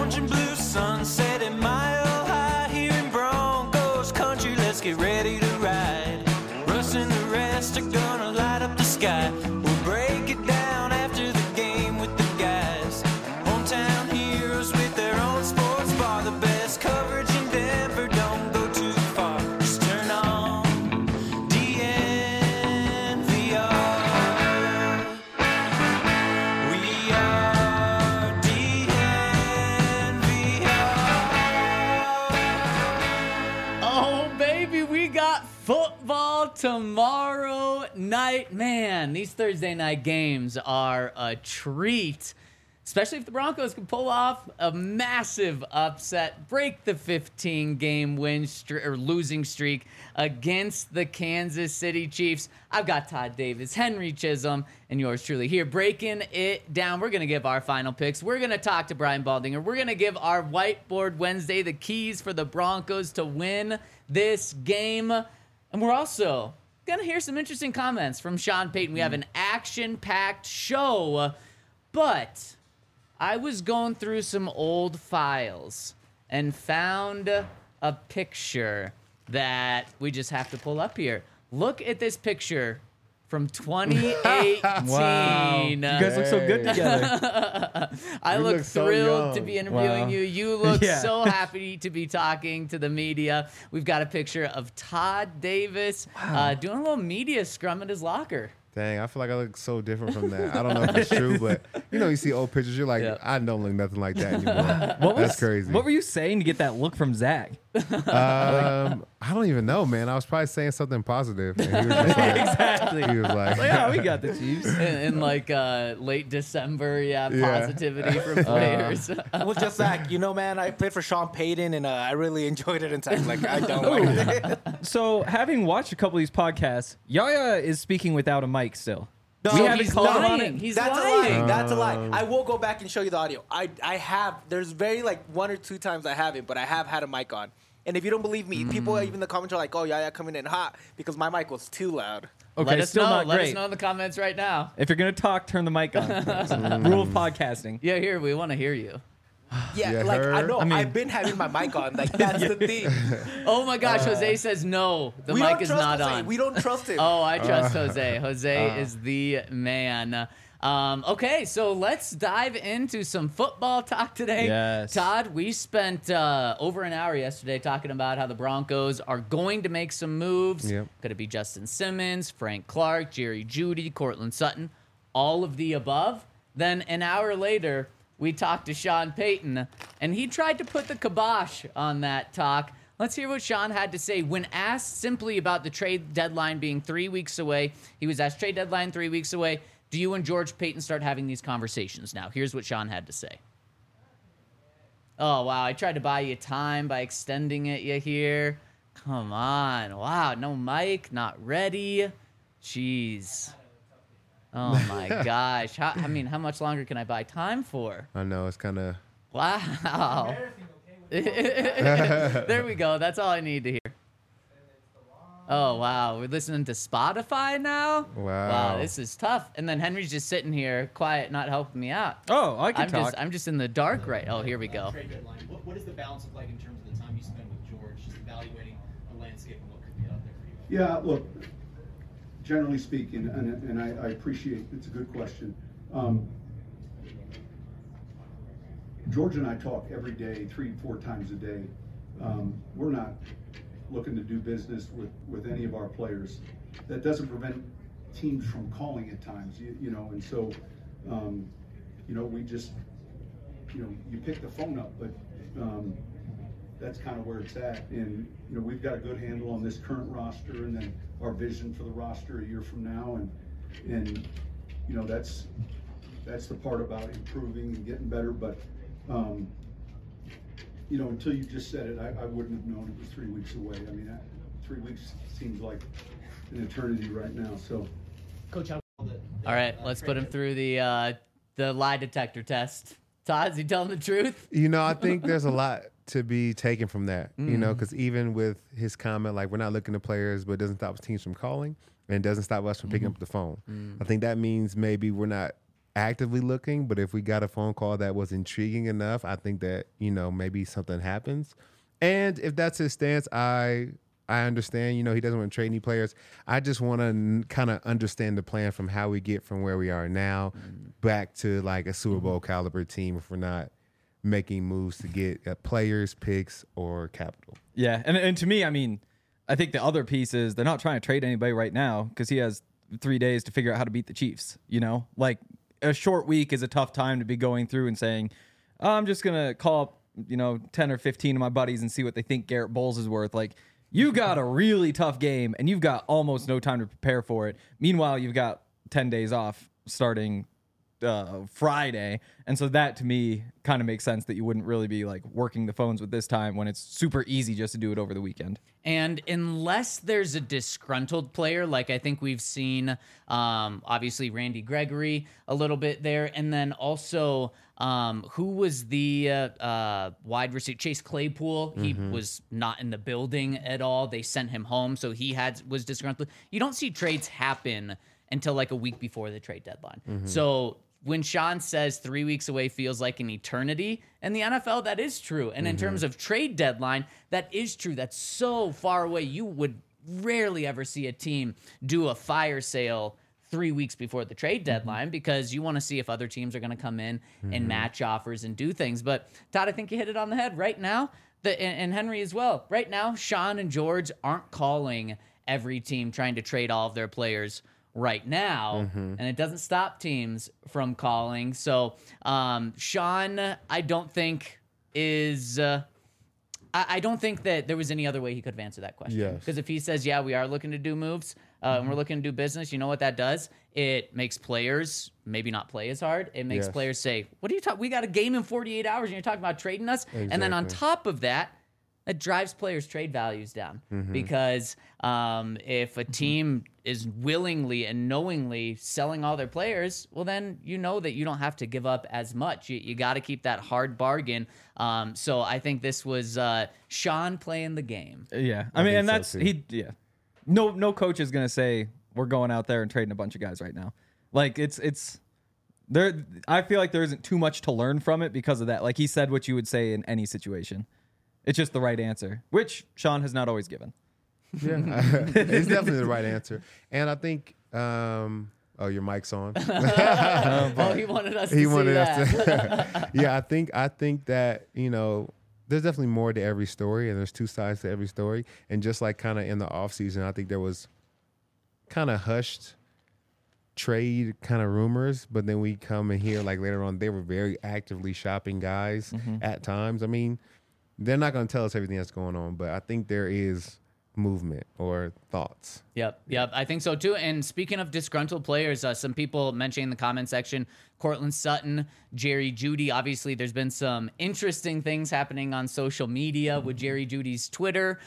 orange and blue sunset at Mile High here in Broncos country. Let's get ready to ride. Russ and the rest are gonna light up the sky. We'll break it down after the game with the guys. Hometown heroes with their own sports bar. The best coverage in Denver, don't go too far. Just turn on DNVR. We are DNVR. Oh, baby, we got football tomorrow night. Man, these Thursday night games are a treat, especially if the Broncos can pull off a massive upset, break the 15-game losing streak against the Kansas City Chiefs. I've got Todd Davis, Henry Chisholm, and yours truly here breaking it down. We're going to give our final picks. We're going to talk to Brian Baldinger. We're going to give our Whiteboard Wednesday the keys for the Broncos to win this game. And we're also going to hear some interesting comments from Sean Payton. We have an action-packed show, but I was going through some old files and found a picture that we just have to pull up here. Look at this picture from 2018. Wow. You guys look so good together. I look so thrilled young. to be interviewing Wow. you. You look Yeah. so happy to be talking to the media. We've got a picture of Todd Davis doing a little media scrum at his locker. Dang, I feel like I look so different from that. I don't know if it's true, but you see old pictures, you're like, Yeah. I don't look nothing like that anymore. That's crazy. What were you saying to get that look from Zach? I don't even know, man. I was probably saying something positive. And he was just like, Exactly. he was like, Yeah, we got the Chiefs. In like late December, positivity from players. Well, just Zach, man, I played for Sean Payton, and I really enjoyed it. And like, I don't like it. So, having watched a couple of these podcasts, Yaya is speaking without a mic still. No, we haven't he's called him on lying. it. He's That's lying. a lie. That's a lie. I will go back and show you the audio. I have. There's very like one or two times I haven't, but I have had a mic on. And if you don't believe me, people even in the comments are like, "Oh, yeah, coming in hot," because my mic was too loud. Okay, Let us still know. not Let great. us know in the comments right now. If you're gonna talk, turn the mic on. Rule of podcasting. Yeah, here, we want to hear you. Yeah, Yeah, like I her. know. I mean- I've been having my mic on. Like that's the thing. Oh my gosh, Jose says no. The we mic don't is trust not Jose. on. We don't trust him. Oh, I trust Jose. Jose is the man. Okay, so let's dive into some football talk today. Yes. Todd, we spent over an hour yesterday talking about how the Broncos are going to make some moves. Yep. Could it be Justin Simmons, Frank Clark, Jerry Jeudy, Cortland Sutton, all of the above? Then an hour later, we talked to Sean Payton, and he tried to put the kibosh on that talk. Let's hear what Sean had to say when asked simply about the trade deadline being 3 weeks away. He was asked, trade deadline 3 weeks away. Do you and George Payton start having these conversations now? Here's what Sean had to say. Oh, wow. I tried to buy you time by extending it you here. Come on. Wow. No mic. Not ready. Jeez. Oh, my gosh. How much longer can I buy time for? I know, it's kind of, Wow. There we go. That's all I need to hear. Oh, wow. We're listening to Spotify now? Wow. This is tough. And then Henry's just sitting here, quiet, not helping me out. Oh, I can talk. I'm just in the dark right. Oh, here we go. Trade deadline. What does the balance look like in terms of the time you spend with George, just evaluating the landscape and what could be out there for you? Yeah, look, generally speaking, and I appreciate it's a good question. George and I talk every day, 3-4 times a day. We're not looking to do business with any of our players. That doesn't prevent teams from calling at times, and so, we just, you pick the phone up, but that's kind of where it's at. And, we've got a good handle on this current roster and then our vision for the roster a year from now. And that's the part about improving and getting better. But, until you just said it, I wouldn't have known it was 3 weeks away. 3 weeks seems like an eternity right now. So, Coach, how All right, let's put him through the lie detector test. Todd, is he telling the truth? I think there's a lot to be taken from that, because even with his comment, like, we're not looking to players, but it doesn't stop teams from calling and it doesn't stop us from picking up the phone. I think that means maybe we're not actively looking, but if we got a phone call that was intriguing enough, I think that, maybe something happens. And if that's his stance, I understand, he doesn't want to trade any players. I just want to kind of understand the plan from how we get from where we are now back to like a Super Bowl caliber team if we're not making moves to get players, picks, or capital. Yeah, and to me, I mean, I think the other piece is they're not trying to trade anybody right now because he has 3 days to figure out how to beat the Chiefs. Like a short week is a tough time to be going through and saying, I'm just going to call up, 10 or 15 of my buddies and see what they think Garrett Bowles is worth. Like, you got a really tough game and you've got almost no time to prepare for it. Meanwhile, you've got 10 days off starting Friday. And so that to me kind of makes sense that you wouldn't really be like working the phones with this time when it's super easy just to do it over the weekend. And unless there's a disgruntled player, like I think we've seen, obviously Randy Gregory a little bit there, and then also who was the wide receiver? Chase Claypool. He was not in the building at all. They sent him home, so he was disgruntled. You don't see trades happen until like a week before the trade deadline. So when Sean says 3 weeks away feels like an eternity, in the NFL, that is true. And in terms of trade deadline, that is true. That's so far away. You would rarely ever see a team do a fire sale 3 weeks before the trade deadline because you want to see if other teams are going to come in and match offers and do things. But Todd, I think you hit it on the head. Right now, and Henry as well, right now, Sean and George aren't calling every team trying to trade all of their players right now, and it doesn't stop teams from calling. So Sean, I don't think is I don't think that there was any other way he could have answered that question. Yes. Because if he says, yeah, we are looking to do moves and we're looking to do business, you know what that does? It makes players maybe not play as hard. It makes players say, what are you talking? We got a game in 48 hours and you're talking about trading us? Exactly. And then on top of that, it drives players' trade values down because if a team is willingly and knowingly selling all their players, well, then you know that you don't have to give up as much. You got to keep that hard bargain. So I think this was Sean playing the game. Yeah, I mean, and that's so too. No coach is gonna say we're going out there and trading a bunch of guys right now. Like it's there. I feel like there isn't too much to learn from it because of that. Like he said what you would say in any situation. It's just the right answer, which Sean has not always given. Yeah, it's definitely the right answer. And I think, your mic's on. He wanted us to see that. Yeah, I think that, there's definitely more to every story, and there's two sides to every story. And just like kind of in the offseason, I think there was kind of hushed trade kind of rumors, but then we come in here like later on, they were very actively shopping guys at times. I mean, they're not going to tell us everything that's going on, but I think there is movement or thoughts. Yep. I think so too. And speaking of disgruntled players, some people mentioning in the comment section, Cortland Sutton, Jerry Jeudy. Obviously, there's been some interesting things happening on social media with Jerry Jeudy's Twitter.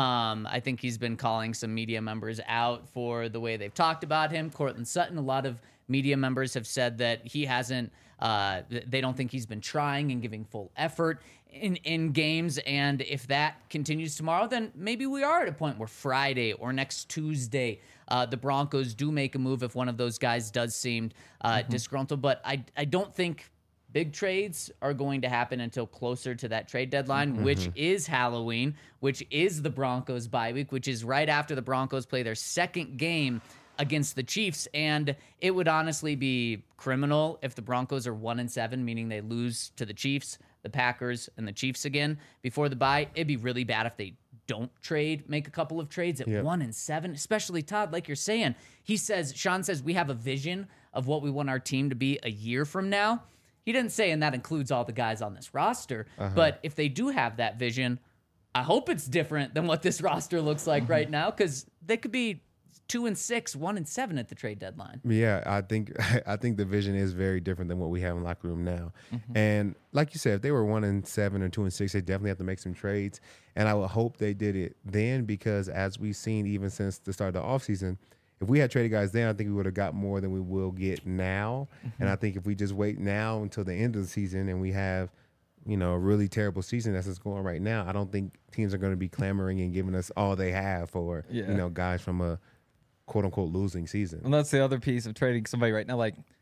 I think he's been calling some media members out for the way they've talked about him. Cortland Sutton, a lot of media members have said that he hasn't, they don't think he's been trying and giving full effort in games. And if that continues tomorrow, then maybe we are at a point where Friday or next Tuesday, the Broncos do make a move if one of those guys does seem disgruntled. But I don't think big trades are going to happen until closer to that trade deadline, which is Halloween, which is the Broncos bye week, which is right after the Broncos play their second game against the Chiefs. And it would honestly be criminal if the Broncos are 1-7, meaning they lose to the Chiefs, the Packers, and the Chiefs again before the bye. It'd be really bad if they don't make a couple of trades at 1-7, especially Todd, like you're saying. Sean says we have a vision of what we want our team to be a year from now. He didn't say, and that includes all the guys on this roster. But if they do have that vision, I hope it's different than what this roster looks like right now, because they could be 2-6, 1-7 at the trade deadline. Yeah, I think the vision is very different than what we have in the locker room now. And like you said, if they were 1-7 or 2-6, they definitely have to make some trades. And I would hope they did it then, because as we've seen even since the start of the offseason, if we had traded guys then, I think we would have got more than we will get now. And I think if we just wait now until the end of the season and we have, a really terrible season that's just going right now, I don't think teams are going to be clamoring and giving us all they have for, guys from a quote-unquote losing season. And that's the other piece of trading somebody right now. Like,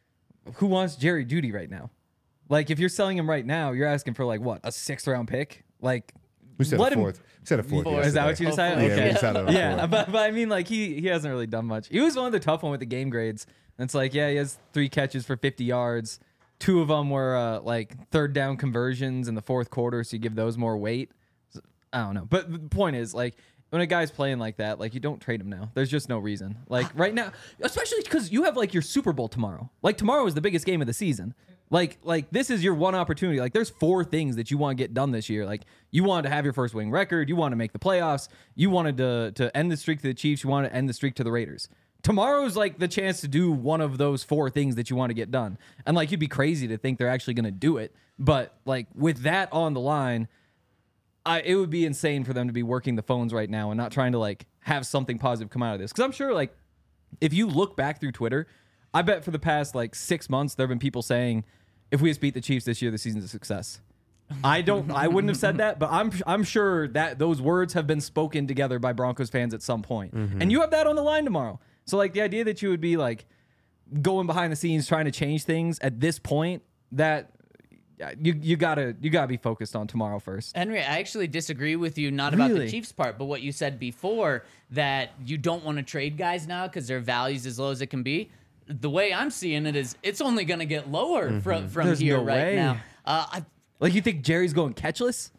who wants Jerry Jeudy right now? Like, if you're selling him right now, you're asking for like what, a 6th round pick? Like, We said let a him. fourth. We said a fourth. Is that what you decided? Yeah, Okay. we decided on a Yeah, fourth. but I mean, like he hasn't really done much. He was one of the tough one with the game grades. And it's like, yeah, he has 3 catches for 50 yards. 2 of them were like 3rd down conversions in the 4th quarter, so you give those more weight. So, I don't know, but the point is, like, when a guy's playing like that, like, you don't trade him now. There's just no reason. Like right now, especially because you have like your Super Bowl tomorrow. Like tomorrow is the biggest game of the season. Like this is your one opportunity. Like there's 4 things that you want to get done this year. Like you wanted to have your first winning record. You want to make the playoffs. You wanted to end the streak to the Chiefs. You wanted to end the streak to the Raiders. Tomorrow's like the chance to do one of those 4 things that you want to get done. And like you'd be crazy to think they're actually going to do it. But like with that on the line, it would be insane for them to be working the phones right now and not trying to like have something positive come out of this. Because I'm sure like if you look back through Twitter, I bet for the past like 6 months there have been people saying, if we just beat the Chiefs this year, the season's a success. I wouldn't have said that, but I'm sure that those words have been spoken together by Broncos fans at some point. And you have that on the line tomorrow. So like the idea that you would be like going behind the scenes trying to change things at this point, that you gotta be focused on tomorrow first. Henry, I actually disagree with you, not about the Really? Chiefs part, but what you said before, that you don't want to trade guys now because their value's as low as it can be. The way I'm seeing it is it's only going to get lower from There's here no right way. now. Like you think Jerry's going catchless?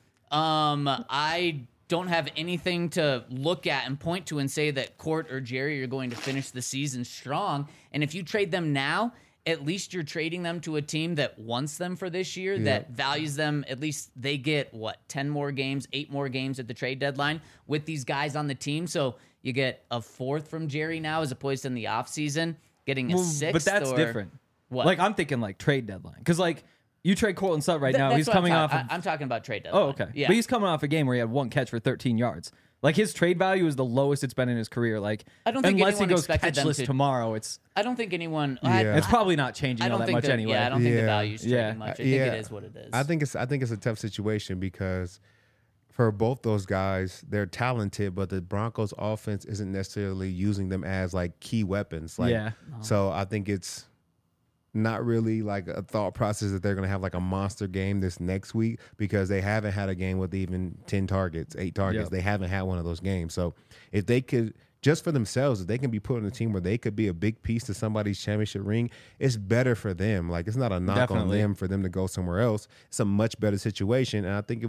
I don't have anything to look at and point to and say that Court or Jerry are going to finish the season strong. And if you trade them now, at least you're trading them to a team that wants them for this year, that values them. At least they get, 10 more games, 8 more games at the trade deadline with these guys on the team. So you get a 4th from Jerry now as opposed to in the offseason getting a 6th. But that's or, different. What? Like I'm thinking like trade deadline. Because like you trade Cortland Sutton right now. That's He's what coming off. I'm talking about trade deadline. Oh, okay. Yeah. But he's coming off a game where he had 1 catch for 13 yards. Like his trade value is the lowest it's been in his career. Like I don't think unless he anyone goes expected them catchless to- tomorrow, it's I don't think anyone. Yeah. it's probably not changing I all don't that think much that, anyway. Yeah, I don't think the Yeah. value's changing Yeah. much. I think it is what it is. I think it's a tough situation because for both those guys, they're talented, but the Broncos offense isn't necessarily using them as like key weapons. Like, Yeah. So I think it's not really like a thought process that they're going to have like a monster game this next week because they haven't had a game with even 10 targets, 8 targets. Yep. They haven't had one of those games. So if they could, just for themselves, if they can be put on a team where they could be a big piece to somebody's championship ring, it's better for them. Like, it's not a knock Definitely. on them for them to go somewhere else. It's a much better situation. And I think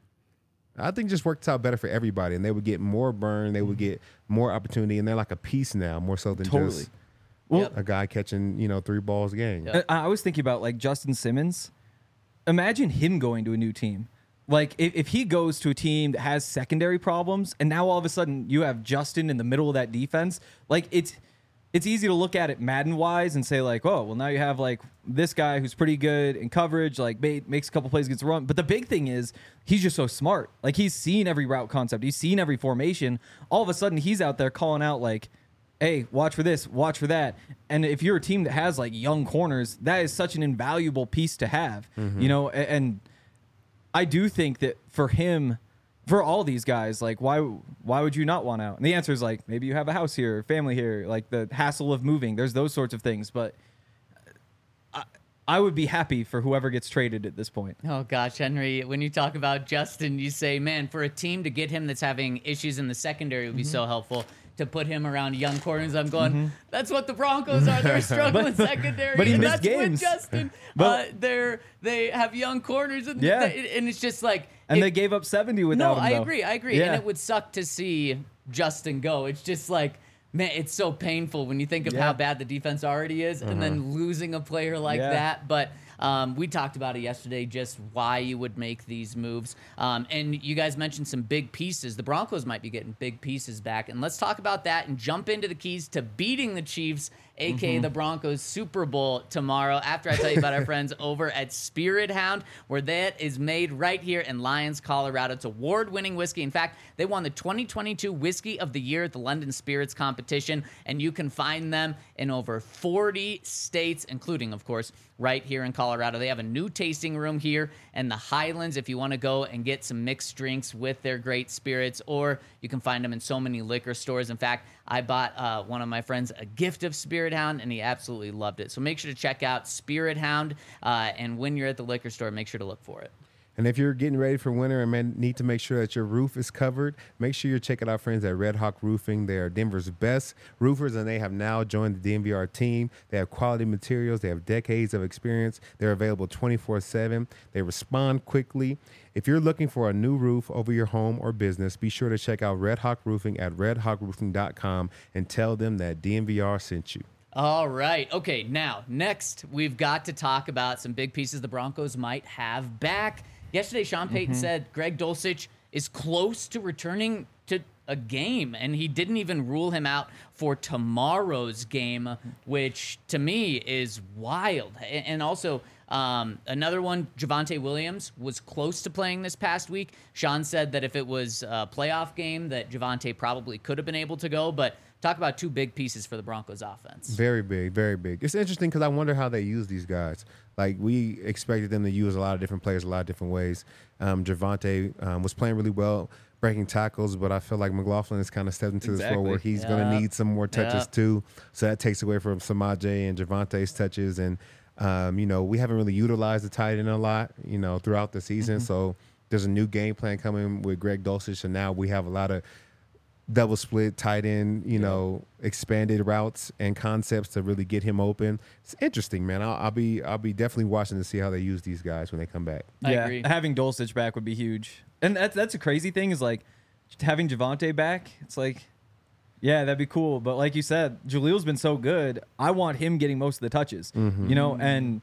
it just works out better for everybody. And they would get more burn. They would get more opportunity. And they're like a piece now, more so than Totally. just Well, a guy catching, 3 balls a game. I was thinking about like Justin Simmons. Imagine him going to a new team. Like if he goes to a team that has secondary problems, and now all of a sudden you have Justin in the middle of that defense. Like it's easy to look at it Madden wise and say like, oh, well now you have like this guy who's pretty good in coverage, like makes a couple plays against the run. But the big thing is he's just so smart. Like he's seen every route concept, he's seen every formation. All of a sudden he's out there calling out like, hey, watch for this, watch for that. And if you're a team that has like young corners, that is such an invaluable piece to have, and I do think that for him, for all these guys, like why would you not want out? And the answer is like, maybe you have a house here, family here, like the hassle of moving. There's those sorts of things. But I would be happy for whoever gets traded at this point. Oh gosh, Henry, when you talk about Justin, you say, man, for a team to get him that's having issues in the secondary would be so helpful. To put him around young corners, I'm going, that's what the Broncos are. They're struggling secondary. but he and missed that's with games. Justin. But- They have young corners. And, Yeah. and it's just like. And they gave up 70 without him. I though. agree. Yeah. And it would suck to see Justin go. It's just like, man, it's so painful when you think of how bad the defense already is and then losing a player like that. But we talked about it yesterday, just why you would make these moves. And you guys mentioned some big pieces. The Broncos might be getting big pieces back. And let's talk about that and jump into the keys to beating the Chiefs, a.k.a. the Broncos Super Bowl tomorrow, after I tell you about our friends over at Spirit Hound, where that is made right here in Lyons, Colorado. It's award-winning whiskey. In fact, they won the 2022 Whiskey of the Year at the London Spirits competition, and you can find them in over 40 states, including, of course, right here in Colorado. Colorado. They have a new tasting room here in the Highlands if you want to go and get some mixed drinks with their great spirits, or you can find them in so many liquor stores. In fact, I bought one of my friends a gift of Spirit Hound, and he absolutely loved it. So make sure to check out Spirit Hound, and when you're at the liquor store, make sure to look for it. And if you're getting ready for winter and need to make sure that your roof is covered, make sure you're checking out friends at Red Hawk Roofing. They are Denver's best roofers, and they have now joined the DNVR team. They have quality materials. They have decades of experience. They're available 24/7. They respond quickly. If you're looking for a new roof over your home or business, be sure to check out Red Hawk Roofing at redhawkroofing.com and tell them that DNVR sent you. All right. Okay, now, next, we've got to talk about some big pieces the Broncos might have back. Yesterday, Sean Payton said Greg Dulcich is close to returning to a game, and he didn't even rule him out for tomorrow's game, which to me is wild. And also, another one, Javonte Williams, was close to playing this past week. Sean said that if it was a playoff game, that Javonte probably could have been able to go, but talk about two big pieces for the Broncos offense. Very big, very big. It's interesting because I wonder how they use these guys. Like, we expected them to use a lot of different players a lot of different ways. Javonte was playing really well, breaking tackles, but I feel like McLaughlin has kind of stepped into this role where he's going to need some more touches too. So that takes away from Samaje and Javonte's touches. And, we haven't really utilized the tight end a lot, throughout the season. So there's a new game plan coming with Greg Dulcich, and now we have a lot of double split, tight end, expanded routes and concepts to really get him open. It's interesting, man. I'll be definitely watching to see how they use these guys when they come back. I agree. Having Dulcich back would be huge. And that's a crazy thing is like having Javonte back. It's like, yeah, that'd be cool. But like you said, Jalil's been so good. I want him getting most of the touches, and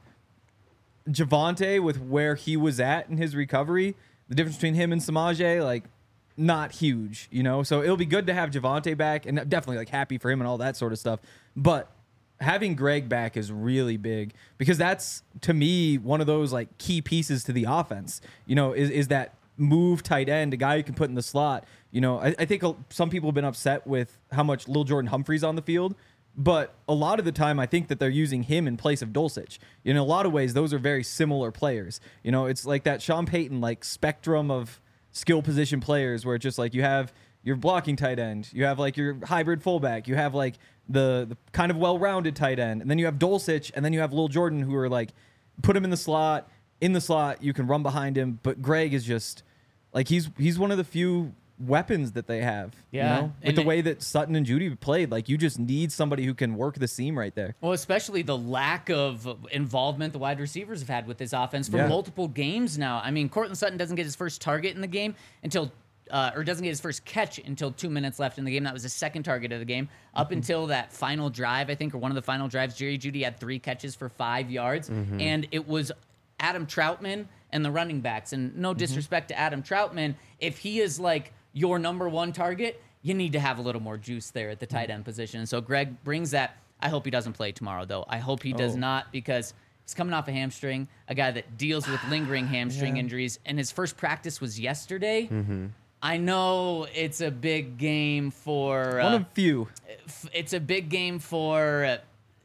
Javonte with where he was at in his recovery, the difference between him and Samaje, like, not huge, so it'll be good to have Javonte back, and definitely like happy for him and all that sort of stuff. But having Greg back is really big because that's, to me, one of those like key pieces to the offense, is that move tight end, a guy you can put in the slot. I think some people have been upset with how much Lil Jordan Humphrey's on the field, but a lot of the time I think that they're using him in place of Dulcich. In a lot of ways, those are very similar players. It's like that Sean Payton like spectrum of skill position players where it's just like you have your blocking tight end, you have like your hybrid fullback, you have like the kind of well-rounded tight end, and then you have Dulcich, and then you have Lil Jordan, who are like, put him in the slot, you can run behind him, but Greg is just like he's one of the few weapons that they have. With the way that Sutton and Judy played, like you just need somebody who can work the seam right there. Well, especially the lack of involvement the wide receivers have had with this offense for multiple games now. I mean, Cortland Sutton doesn't get his first target in the game until or doesn't get his first catch until 2 minutes left in the game. That was the second target of the game. Up until that final drive, I think, or one of the final drives, Jerry Jeudy had 3 catches for 5 yards, and it was Adam Troutman and the running backs. And no disrespect to Adam Troutman, if he is like your number one target, you need to have a little more juice there at the tight end position. And so Greg brings that. I hope he doesn't play tomorrow, though. I hope he does not, because he's coming off a hamstring, a guy that deals with lingering hamstring injuries, and his first practice was yesterday. I know it's a big game for... one of few. It's a big game for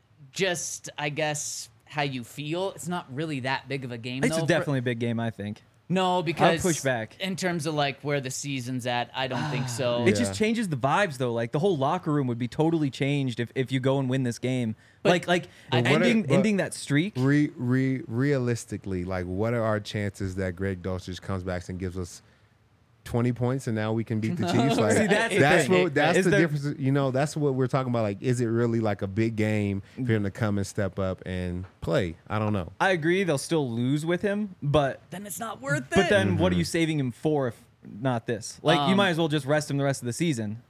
just, I guess, how you feel. It's not really that big of a game, It's though. definitely a big game, I think. No, because I'll push back. In terms of like where the season's at, I don't think so. It just changes the vibes, though. Like the whole locker room would be totally changed if you go and win this game. But ending that streak. Realistically, like, what are our chances that Greg Dulcich comes back and gives us 20 points and now we can beat the Chiefs? Like, See, that's the difference. That's what we're talking about. Like, is it really like a big game for him to come and step up and play? I don't know. I agree they'll still lose with him, but then it's not worth it. But then what are you saving him for if not this? Like, you might as well just rest him the rest of the season,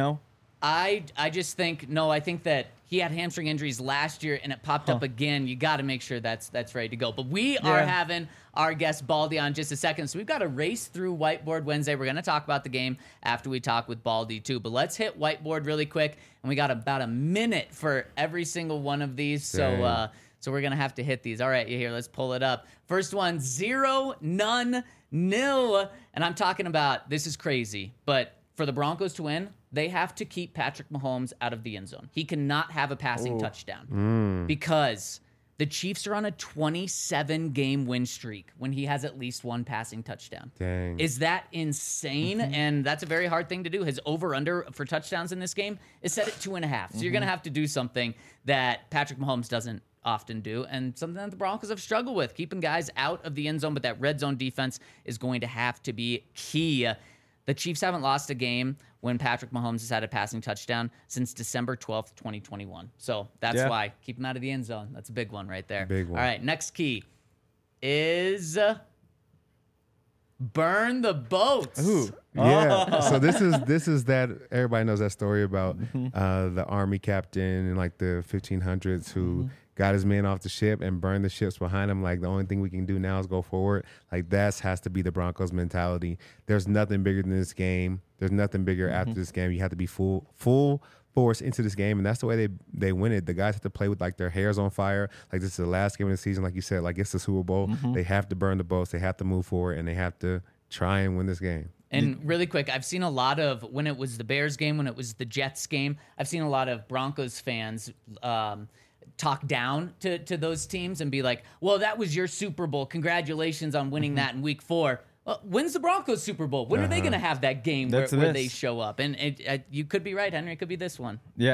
I just think, I think that he had hamstring injuries last year and it popped up again. You got to make sure that's ready to go. But we are having our guest Baldy on just a second. So we've got to race through Whiteboard Wednesday. We're going to talk about the game after we talk with Baldy too. But let's hit Whiteboard really quick. And we got about a minute for every single one of these. So we're going to have to hit these. All right, here, let's pull it up. First one, 0, none, nil. And I'm talking about, this is crazy, but for the Broncos to win, they have to keep Patrick Mahomes out of the end zone. He cannot have a passing touchdown because The Chiefs are on a 27-game win streak when he has at least one passing touchdown. Dang. Is that insane? And that's a very hard thing to do. His over-under for touchdowns in this game is set at 2.5. So you're going to have to do something that Patrick Mahomes doesn't often do, and something that the Broncos have struggled with, keeping guys out of the end zone, but that red zone defense is going to have to be key. The Chiefs haven't lost a game when Patrick Mahomes has had a passing touchdown since December 12th, 2021. So that's why. Keep him out of the end zone. That's a big one right there. Big one. All right, next key is burn the boats. Ooh. Yeah. So this is that everybody knows that story about the army captain in like the 1500s who got his men off the ship and burned the ships behind him. Like, the only thing we can do now is go forward. Like, that has to be the Broncos mentality. There's nothing bigger than this game. There's nothing bigger after this game. You have to be full force into this game, and that's the way they win it. The guys have to play with like their hairs on fire. Like, this is the last game of the season. Like you said, like it's the Super Bowl. They have to burn the boats. They have to move forward, and they have to try and win this game. And really quick, I've seen a lot of, when it was the Bears game, when it was the Jets game, I've seen a lot of Broncos fans talk down to those teams and be like, well, that was your Super Bowl. Congratulations on winning that in week 4. When's the Broncos Super Bowl? When are they going to have that game where they show up? And you could be right, Henry. It could be this one. Yeah,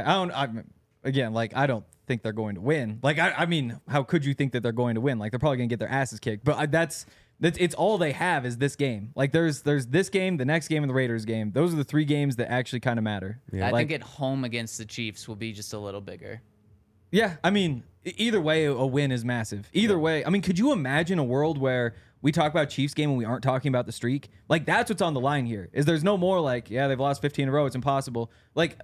I don't think they're going to win. Like, I mean, how could you think that they're going to win? Like, they're probably going to get their asses kicked. But that's it's all they have is this game. Like, there's this game, the next game, and the Raiders game. Those are the 3 games that actually kind of matter. Yeah. I think at home against the Chiefs will be just a little bigger. Yeah, I mean, either way, a win is massive. Either way, I mean, could you imagine a world where we talk about Chiefs game when we aren't talking about the streak? Like, that's what's on the line here. Is there's no more like, yeah, they've lost 15 in a row. It's impossible. Like,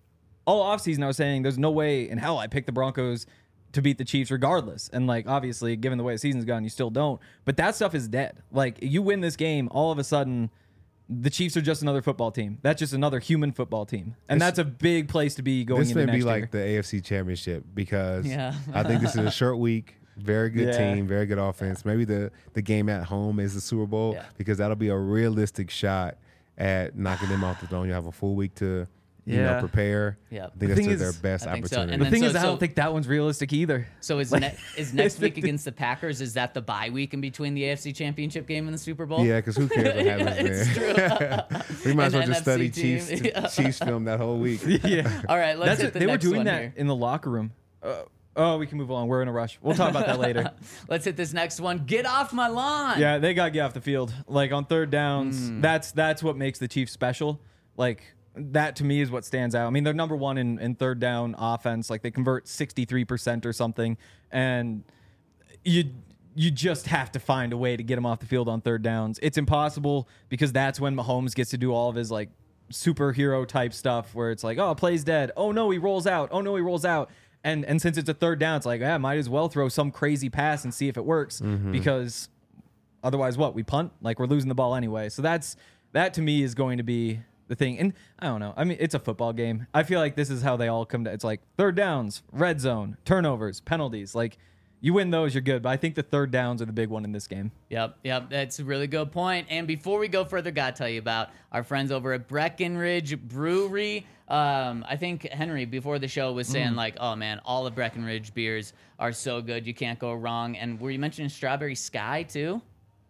all offseason I was saying there's no way in hell I picked the Broncos to beat the Chiefs regardless. And, like, obviously, given the way the season's gone, you still don't. But that stuff is dead. Like, you win this game, all of a sudden, the Chiefs are just another football team. That's just another human football team. And that's a big place to be going into next year. This may be like the AFC Championship because I think this is a short week. Very good team, very good offense. Maybe the game at home is the Super Bowl because that'll be a realistic shot at knocking them off the throne. You have a full week to prepare. Yeah. I think that's their best opportunity. So. The thing is, I don't think that one's realistic either. So is next week against the Packers, is that the bye week in between the AFC Championship game and the Super Bowl? Yeah, because who cares what happens there? We might as well just study NFC Chiefs film that whole week. Yeah. All right, let's hit the They were next doing one that here. in the locker room. We can move on. We're in a rush. We'll talk about that later. Let's hit this next one. Get off my lawn. Yeah, they got to get off the field. Like, on third downs, that's what makes the Chiefs special. Like, that to me is what stands out. I mean, they're number 1 in third down offense. Like, they convert 63% or something. And you just have to find a way to get them off the field on third downs. It's impossible because that's when Mahomes gets to do all of his, like, superhero type stuff where it's like, oh, play's dead. Oh, no, he rolls out. Oh, no, he rolls out. And since it's a third down, it's like, might as well throw some crazy pass and see if it works because otherwise what? We punt? Like, we're losing the ball anyway. So that to me is going to be the thing. And I don't know. I mean, it's a football game. I feel like this is how they all come to. It's like third downs, red zone, turnovers, penalties. Like, you win those, you're good. But I think the third downs are the big one in this game. Yep. That's a really good point. And before we go further, gotta tell you about our friends over at Breckenridge Brewery. I think Henry before the show was saying like, oh man, all of Breckenridge beers are so good, you can't go wrong. And were you mentioning Strawberry Sky too?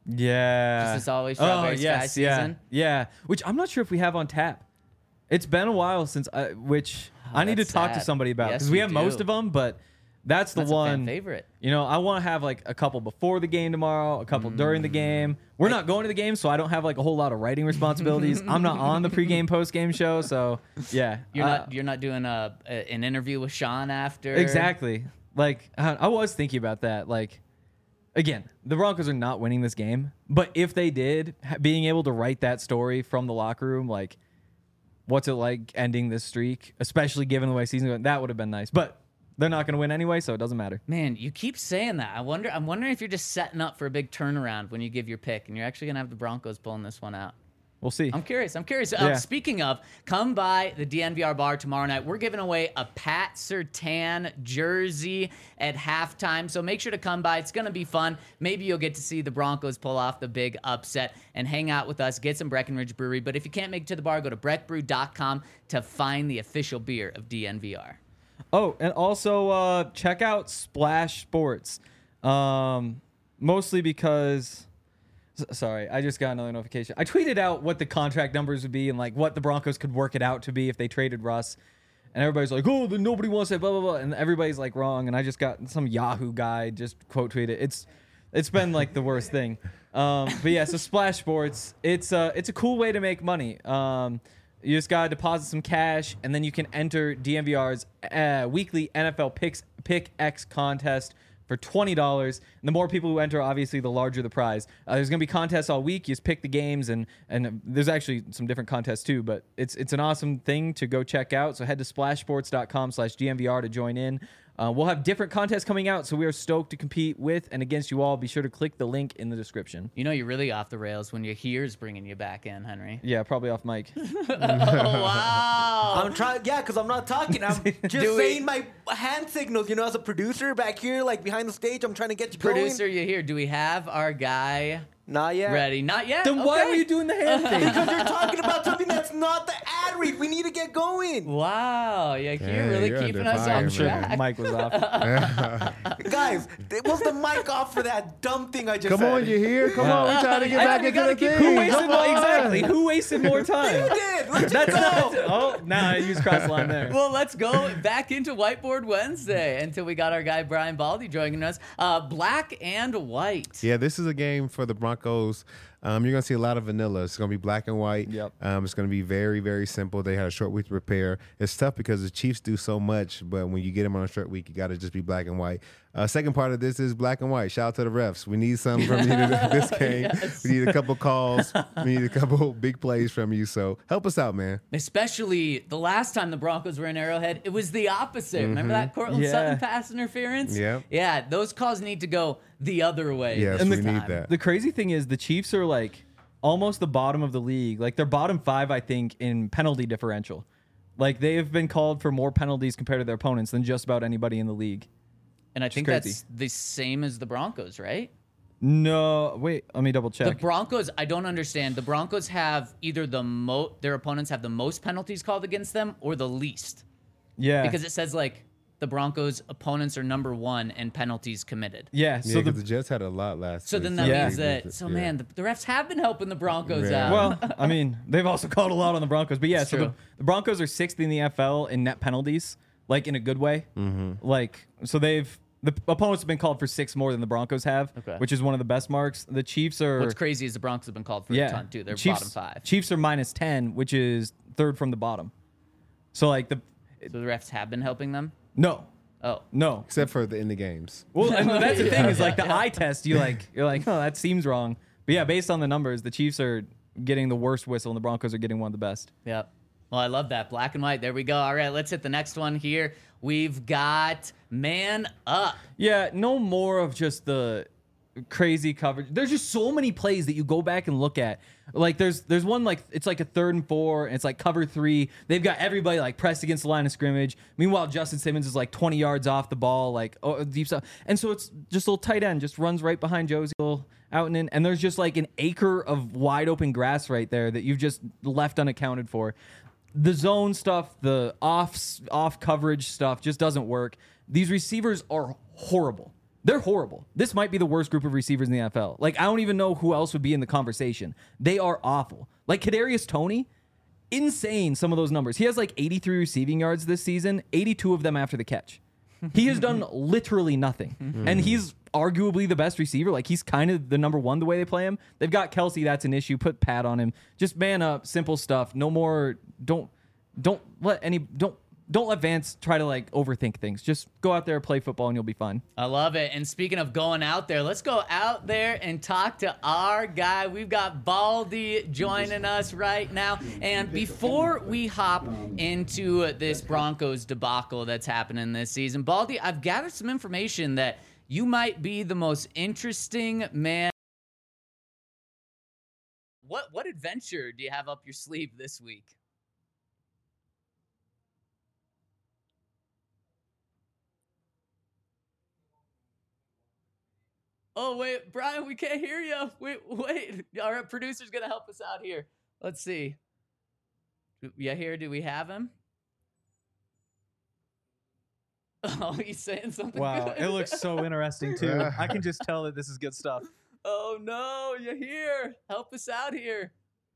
Yeah. Just as always, Strawberry Sky season. Yeah. Which I'm not sure if we have on tap. It's been a while since I need to talk to somebody about because we have most of them, but that's the one a fan favorite. You know, I want to have like a couple before the game tomorrow, a couple during the game. We're not going to the game, so I don't have like a whole lot of writing responsibilities. I'm not on the pregame, postgame show, so yeah. You're not doing an interview with Sean after. Exactly. Like I was thinking about that. Like, again, the Broncos are not winning this game, but if they did, being able to write that story from the locker room, like, what's it like ending this streak, especially given the way season's going, that would have been nice. But they're not going to win anyway, so it doesn't matter. Man, you keep saying that. I'm wondering if you're just setting up for a big turnaround when you give your pick, and you're actually going to have the Broncos pulling this one out. We'll see. I'm curious. Yeah. Speaking of, come by the DNVR bar tomorrow night. We're giving away a Pat Surtain jersey at halftime, so make sure to come by. It's going to be fun. Maybe you'll get to see the Broncos pull off the big upset and hang out with us, get some Breckenridge Brewery. But if you can't make it to the bar, go to breckbrew.com to find the official beer of DNVR. Oh, and also check out Splash Sports. Mostly because, sorry, I just got another notification. I tweeted out what the contract numbers would be and like what the Broncos could work it out to be if they traded Russ. And everybody's like, oh, then nobody wants it, blah, blah, blah. And everybody's like wrong. And I just got some Yahoo guy just quote tweeted. It's been like the worst thing. But yeah, so Splash Sports, it's a cool way to make money. You just gotta deposit some cash, and then you can enter DNVR's weekly NFL Pick X contest for $20. And the more people who enter, obviously, the larger the prize. There's going to be contests all week. You just pick the games, and there's actually some different contests too, but it's an awesome thing to go check out. So head to splashsports.com/DNVR to join in. We'll have different contests coming out, so we are stoked to compete with and against you all. Be sure to click the link in the description. You know you're really off the rails when your here's bringing you back in, Henry. Yeah, probably off mic. Oh, wow. I'm trying, yeah, because I'm not talking. I'm just saying my hand signals. You know, as a producer back here, like behind the stage, I'm trying to get you Producer, going. you're here. Do we have our guy Not yet. ready? Not yet. Then why Okay. were you doing the hand thing? Because you're talking about something that's not the ad read. We need to get going. Wow, yeah, you're Yeah, really you're keeping under us fire, on I'm sure track. Mike was off. Guys, was the mic off for that dumb thing I just Come said? on, you here? Come on, we're trying to get back into the thing. Who wasted Come on. exactly? Who wasted more time? You did. Let's That's just go. not. Oh, now I use cross line there. Well, let's go back into Whiteboard Wednesday until we got our guy Brian Baldy joining us. Black and white. Yeah, this is a game for the Broncos. You're going to see a lot of vanilla. It's going to be black and white. Yep. It's going to be very, very simple. They had a short week to prepare. It's tough because the Chiefs do so much, but when you get them on a short week, you got to just be black and white. Second part of this is black and white. Shout out to the refs. We need some from you this game. Yes. We need a couple calls. We need a couple big plays from you. So help us out, man. Especially the last time the Broncos were in Arrowhead, it was the opposite. Remember that Cortland Yeah. Sutton pass interference? Yep. Yeah, those calls need to go the other way. Yes, this we time. need that. The crazy thing is the Chiefs are like almost the bottom of the league. Like they're bottom 5, I think, in penalty differential. Like they have been called for more penalties compared to their opponents than just about anybody in the league. And I think crazy. that's the same as the Broncos, right? No, wait, let me double The check. Broncos, I don't understand. The Broncos have either their opponents have the most penalties called against them or the least. Yeah. Because it says like the Broncos' opponents are number 1 in penalties committed. yeah, Yeah, so because the Jets had a lot last So week. then that Yeah. means that, so Yeah. man, the refs have been helping the Broncos Yeah. out. well, I mean, they've also called a lot on the Broncos, but yeah, It's so true. the Broncos are 6th in the NFL in net penalties, like in a good way. Like, so the opponents have been called for 6 more than the Broncos have, Okay. which is one of the best marks. The Chiefs are What's crazy is the Broncos have been called for a ton too. They're Chiefs, bottom 5. Chiefs are minus 10, which is 3rd from the bottom. So like So the refs have been helping them? no, Oh. Except for in the games. Well, and that's the thing is like the eye test. You're like, oh, that seems wrong. But yeah, based on the numbers, the Chiefs are getting the worst whistle, and the Broncos are getting one of the best. Yep. Well, I love that. Black and white. There we go. All right, let's hit the next one here. We've got Man Up. Yeah, no more of just the crazy coverage. There's just so many plays that you go back and look at. Like there's one like it's like a 3rd and 4, and it's like cover 3. They've got everybody like pressed against the line of scrimmage. Meanwhile, Justin Simmons is like 20 yards off the ball, like deep stuff. And so it's just a little tight end, just runs right behind Josie out and in. And there's just like an acre of wide open grass right there that you've just left unaccounted for. The zone stuff, the off coverage stuff just doesn't work. These receivers are horrible. They're horrible. This might be the worst group of receivers in the NFL. Like, I don't even know who else would be in the conversation. They are awful. Like, Kadarius Toney, insane some of those numbers. He has like 83 receiving yards this season, 82 of them after the catch. He has done literally nothing. And he's arguably the best receiver. Like, he's kind of the number 1 the way they play him. They've got Kelsey, that's an issue. Put Pat on him. Just man up, simple stuff. No more, don't let Vance try to like overthink things. Just go out there, play football, and you'll be fine. I love it. And speaking of going out there, let's go out there and talk to our guy. We've got Baldy joining us right now. And before we hop into this Broncos debacle that's happening this season, Baldy, I've gathered some information that you might be the most interesting man. What adventure do you have up your sleeve this week? Oh, wait, Brian, we can't hear you. Wait. All right, producer's going to help us out here. Let's see. Yeah, here, do we have him? Oh, he's saying something. Wow, good. it looks so interesting too. I can just tell that this is good stuff. Oh no, you're here. Help us out here.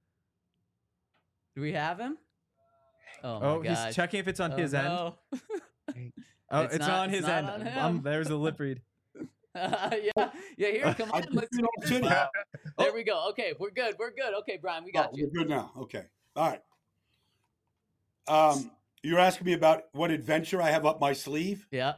Do we have him? Oh my Oh, gosh. he's checking if it's on his end. no. Oh, It's it's not- on it's his not end. on him. There's a lip read. Yeah, here, come on. Let's you know, get this City. out. There we go. Okay, we're good. We're good. Okay, Brian, we got Oh, you. we're good now. Okay. All right. You're asking me about what adventure I have up my sleeve? Yep.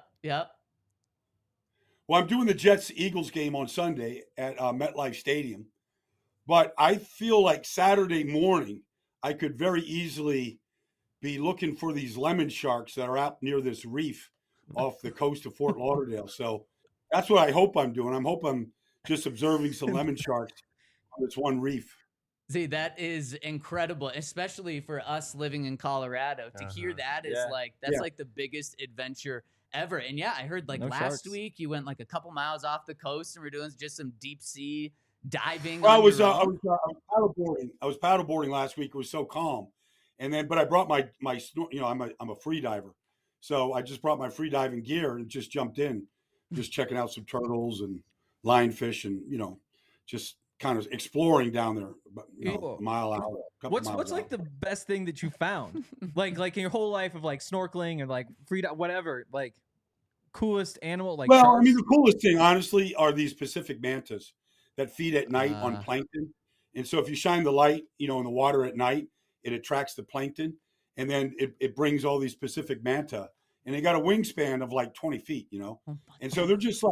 Well, I'm doing the Jets-Eagles game on Sunday at MetLife Stadium, but I feel like Saturday morning I could very easily be looking for these lemon sharks that are out near this reef off the coast of Fort Lauderdale. So that's what I hope I'm doing. I'm just observing some lemon sharks on this one reef. See, that is incredible, especially for us living in Colorado. To hear that is Yeah. like the biggest adventure ever. And yeah, I heard like No last sharks. week you went like a couple miles off the coast and we're doing just some deep sea diving. Well, I on was your own. paddleboarding. I was paddleboarding last week. It was so calm, but I brought my I'm a free diver, so I just brought my free diving gear and just jumped in, just checking out some turtles and lionfish and just kind of exploring down there, a mile out. What's like the best thing that you found? like in your whole life of like snorkeling and like free whatever, like coolest animal like Well, sharks? I mean, the coolest thing, honestly, are these Pacific mantas that feed at night on plankton. And so if you shine the light, in the water at night, it attracts the plankton, and then it brings all these Pacific manta, and they got a wingspan of like 20 feet, and so they're just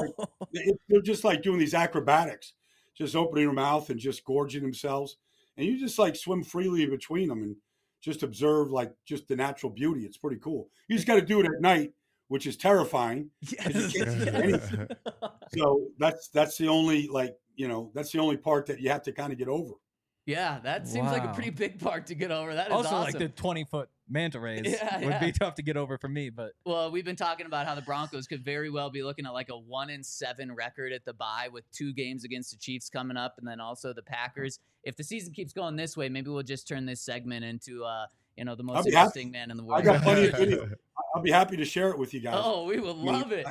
like doing these acrobatics, just opening their mouth and just gorging themselves, and you just like swim freely in between them and just observe like just the natural beauty. It's pretty cool. You just got to do it at night, which is terrifying. 'Cause you can't see anything. So that's the only that's the only part that you have to kind of get over. Yeah, that seems like a Wow. pretty big part to get over. That is also awesome. like the 20-foot manta rays Yeah, would be tough to get over for me, but Well, we've been talking about how the Broncos could very well be looking at like a 1-7 record at the bye with 2 games against the Chiefs coming up, and then also the Packers. If the season keeps going this way, maybe we'll just turn this segment into the most be interesting happy. man in the I world. got plenty of video. I'll be happy to share it with you guys. Oh, we would love it.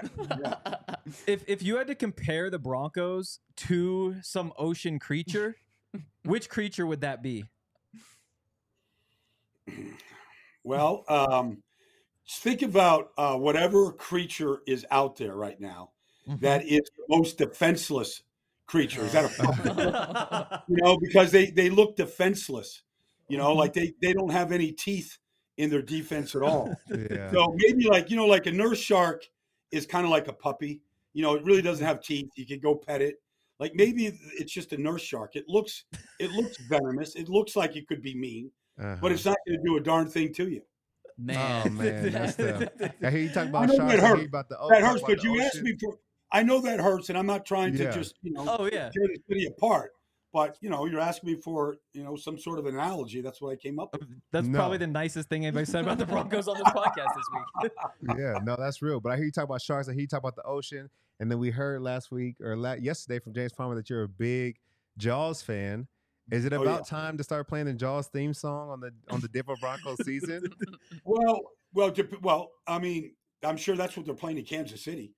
if you had to compare the Broncos to some ocean creature, which creature would that be? Well, think about whatever creature is out there right now that is the most defenseless creature. Is that a because they look defenseless, like they don't have any teeth in their defense at all. Yeah. So maybe like a nurse shark is kind of like a puppy. It really doesn't have teeth. You can go pet it. Like maybe it's just a nurse shark. It looks venomous. It looks like it could be mean, but it's not going to do a darn thing to you. Man. Oh man, that's tough. I hear you talk I about know sharks. that I hear hurts. you about the That talk hurts, about but the you asked ocean. me for. I know that hurts, and I'm not trying to Yeah. just Oh, yeah. tear the city apart. But you're asking me for some sort of analogy. That's what I came up with. That's No. probably the nicest thing anybody said about the Broncos on this podcast this week. Yeah, no, that's real. But I hear you talk about sharks. I hear you talk about the ocean. And then we heard last week or yesterday from James Palmer that you're a big Jaws fan. Is it about time to start playing the Jaws theme song on the Denver Broncos season? Well. I mean, I'm sure that's what they're playing in Kansas City.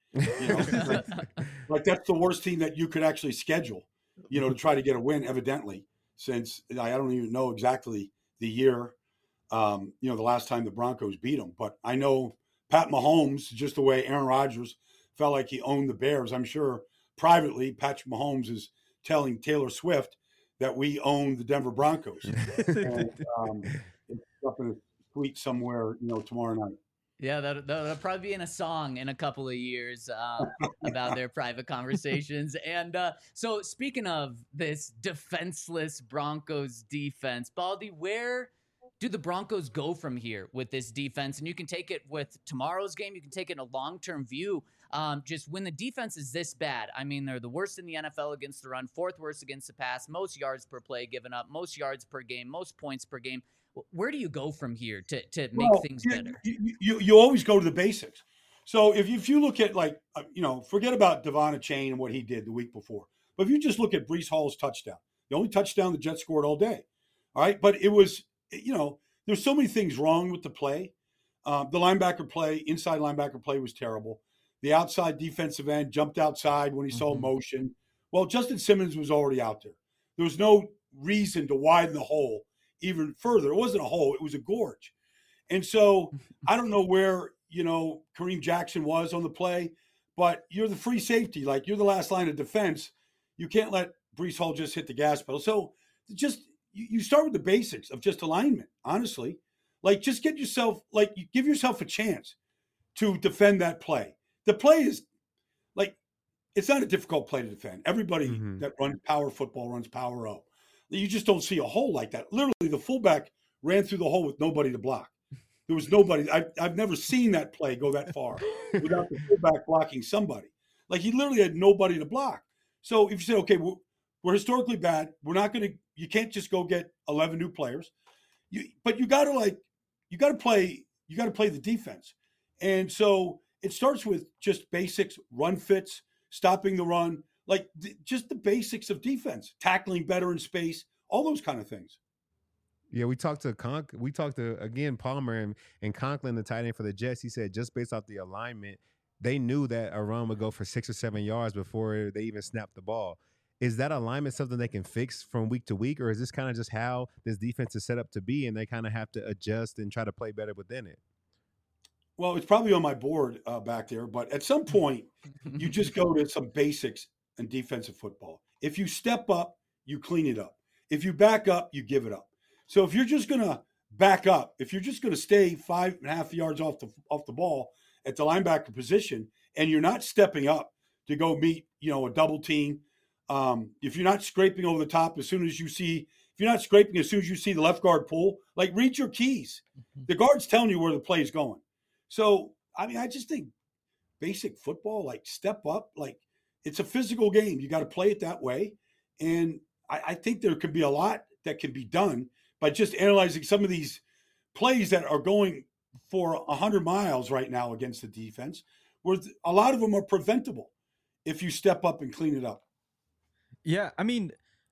Like that's the worst team that you could actually schedule. To try to get a win. Evidently, since I don't even know exactly the year. The last time the Broncos beat them, but I know Pat Mahomes, just the way Aaron Rodgers felt like he owned the Bears. I'm sure privately, Patrick Mahomes is telling Taylor Swift that we own the Denver Broncos. And, it's up in a tweet somewhere, tomorrow night. Yeah, that'll probably be in a song in a couple of years about their private conversations. And so speaking of this defenseless Broncos defense, Baldy, where do the Broncos go from here with this defense? And you can take it with tomorrow's game. You can take it in a long-term view. Just when the defense is this bad, I mean, they're the worst in the NFL against the run, 4th worst against the pass, most yards per play given up, most yards per game, most points per game. Where do you go from here to make things better? You always go to the basics. So if you look at forget about Devon Achane and what he did the week before. But if you just look at Breece Hall's touchdown, the only touchdown the Jets scored all day. All right. But it was, there's so many things wrong with the play. The linebacker play, inside linebacker play was terrible. The outside defensive end jumped outside when he saw motion. Well, Justin Simmons was already out there. There was no reason to widen the hole even further. It wasn't a hole. It was a gorge. And so I don't know where, Kareem Jackson was on the play, but you're the free safety. Like, you're the last line of defense. You can't let Breece Hall just hit the gas pedal. So just you start with the basics of just alignment, honestly. Like, just give yourself a chance to defend that play. The play is like, it's not a difficult play to defend. Everybody that runs power football runs power O. You just don't see a hole like that. Literally, the fullback ran through the hole with nobody to block. There was nobody. I've never seen that play go that far without the fullback blocking somebody. Like, he literally had nobody to block. So if you say, okay, we're historically bad, you can't just go get 11 new players. But you got to play the defense. And so it starts with just basics, run fits, stopping the run, like just the basics of defense, tackling better in space, all those kind of things. Yeah, we talked to again Palmer and Conklin, the tight end for the Jets. He said just based off the alignment, they knew that a run would go for 6 or 7 yards before they even snapped the ball. Is that alignment something they can fix from week to week, or is this kind of just how this defense is set up to be, and they kind of have to adjust and try to play better within it? Well, it's probably on my board back there, but at some point, you just go to some basics in defensive football. If you step up, you clean it up. If you back up, you give it up. So if you're just going to back up, if you're just going to stay 5.5 yards off the ball at the linebacker position, and you're not stepping up to go meet, a double team, if you're not scraping over the top as soon as you see the left guard pull, like, read your keys. The guard's telling you where the play is going. So, I mean, I just think basic football, like, step up, like, it's a physical game. You got to play it that way. And I think there could be a lot that can be done by just analyzing some of these plays that are going for 100 miles right now against the defense, where a lot of them are preventable if you step up and clean it up. Yeah, I mean,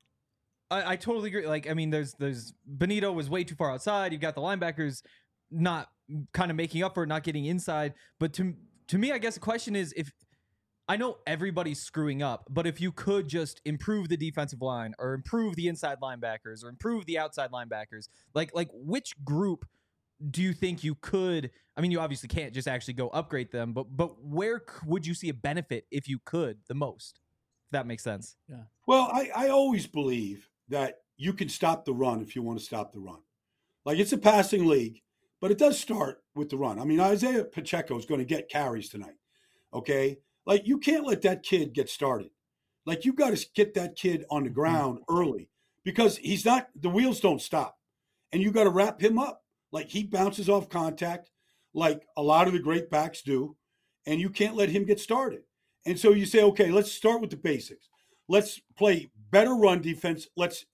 I totally agree. Like, I mean, there's Benito was way too far outside. You've got the linebackers not kind of making up for it, not getting inside. But to me, I guess the question is, if I know everybody's screwing up, but if you could just improve the defensive line or improve the inside linebackers or improve the outside linebackers, like which group do you think you could? I mean, you obviously can't just actually go upgrade them, but where would you see a benefit if you could the most? If that makes sense. Yeah. Well, I always believe that you can stop the run if you want to stop the run. Like, it's a passing league, but it does start with the run. I mean, Isaiah Pacheco is going to get carries tonight. Okay. Like, you can't let that kid get started. Like, you got to get that kid on the ground early, because the wheels don't stop, and you got to wrap him up. Like, he bounces off contact like a lot of the great backs do, and you can't let him get started. And so you say, okay, let's start with the basics. Let's play better run defense. Let's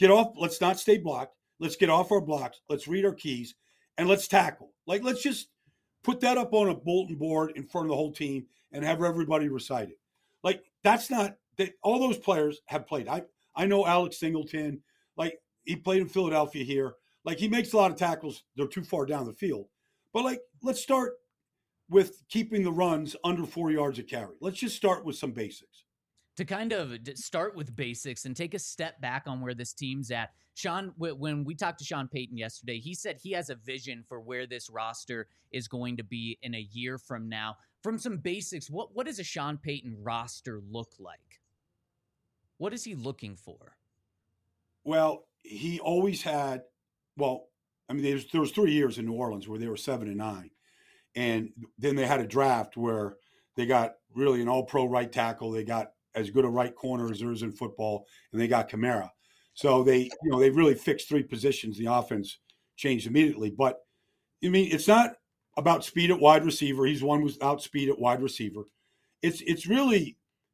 not stay blocked. Let's get off our blocks. Let's read our keys, and let's tackle. Like, let's just put that up on a bulletin board in front of the whole team and have everybody recite it. Like, all those players have played. I know Alex Singleton, like, he played in Philadelphia here. Like, he makes a lot of tackles. They're too far down the field. But, like, let's start with keeping the runs under 4 yards a carry. Let's just start with some basics. To kind of start with basics and take a step back on where this team's at. Sean, when we talked to Sean Payton yesterday, he said he has a vision for where this roster is going to be in a year from now. From some basics, what does a Sean Payton roster look like? What is he looking for? Well, he always had, there was 3 years in New Orleans where they were 7-9. And then they had a draft where they got really an all-pro right tackle. They got as good a right corner as there is in football, and they got Kamara. So they really fixed 3 positions. The offense changed immediately. But, I mean, it's not about speed at wide receiver. He's one without speed at wide receiver. It's really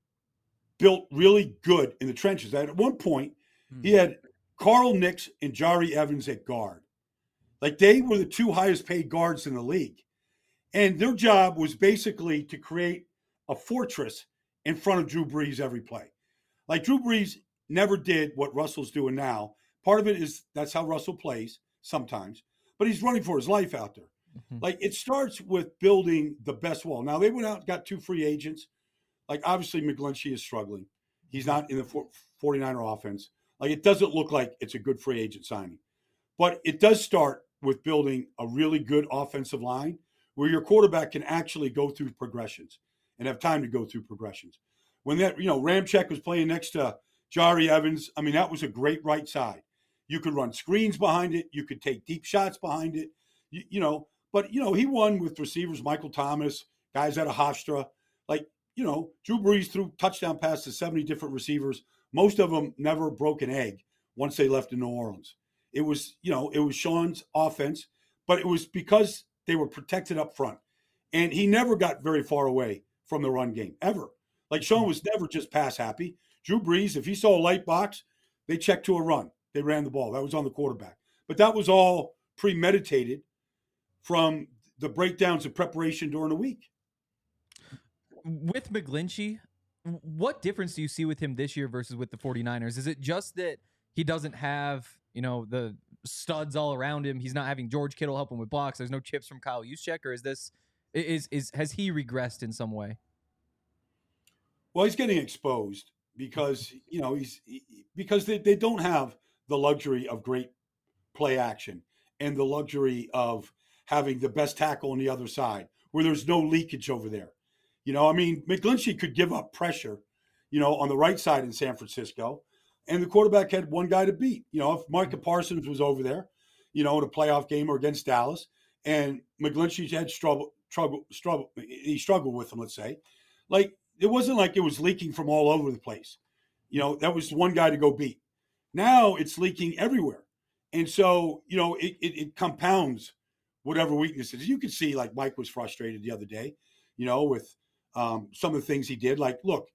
built really good in the trenches. At one point, he had Carl Nicks and Jari Evans at guard. Like, they were the 2 highest paid guards in the league. And their job was basically to create a fortress in front of Drew Brees every play. Like, Drew Brees never did what Russell's doing now. Part of it is that's how Russell plays sometimes, but he's running for his life out there. Like, it starts with building the best wall. Now, they went out and got 2 free agents. Like, obviously, McGlinchey is struggling. He's not in the 49er offense. Like, it doesn't look like it's a good free agent signing. But it does start with building a really good offensive line where your quarterback can actually go through progressions and have time to go through progressions. When that, Ramczyk was playing next to Jari Evans, I mean, that was a great right side. You could run screens behind it. You could take deep shots behind it, But, he won with receivers, Michael Thomas, guys out of Hofstra. Like, Drew Brees threw touchdown passes to 70 different receivers. Most of them never broke an egg once they left in New Orleans. It was, it was Sean's offense, but it was because they were protected up front. And he never got very far away from the run game, ever. Like, Sean was never just pass happy. Drew Brees, if he saw a light box, they checked to a run. They ran the ball. That was on the quarterback. But that was all premeditated from the breakdowns of preparation during the week. With McGlinchey, what difference do you see with him this year versus with the 49ers? Is it just that he doesn't have, the studs all around him? He's not having George Kittle help him with blocks. There's no chips from Kyle Juszczyk, or has he regressed in some way? Well, he's getting exposed because, because they don't have the luxury of great play action and the luxury of having the best tackle on the other side where there's no leakage over there. McGlinchey could give up pressure, on the right side in San Francisco, and the quarterback had one guy to beat. If Micah Parsons was over there, in a playoff game or against Dallas, and McGlinchey had he struggled with him, let's say. Like, it wasn't like it was leaking from all over the place. That was one guy to go beat. Now it's leaking everywhere. And so, it compounds whatever weaknesses. You could see, like, Mike was frustrated the other day, with some of the things he did. Like, look,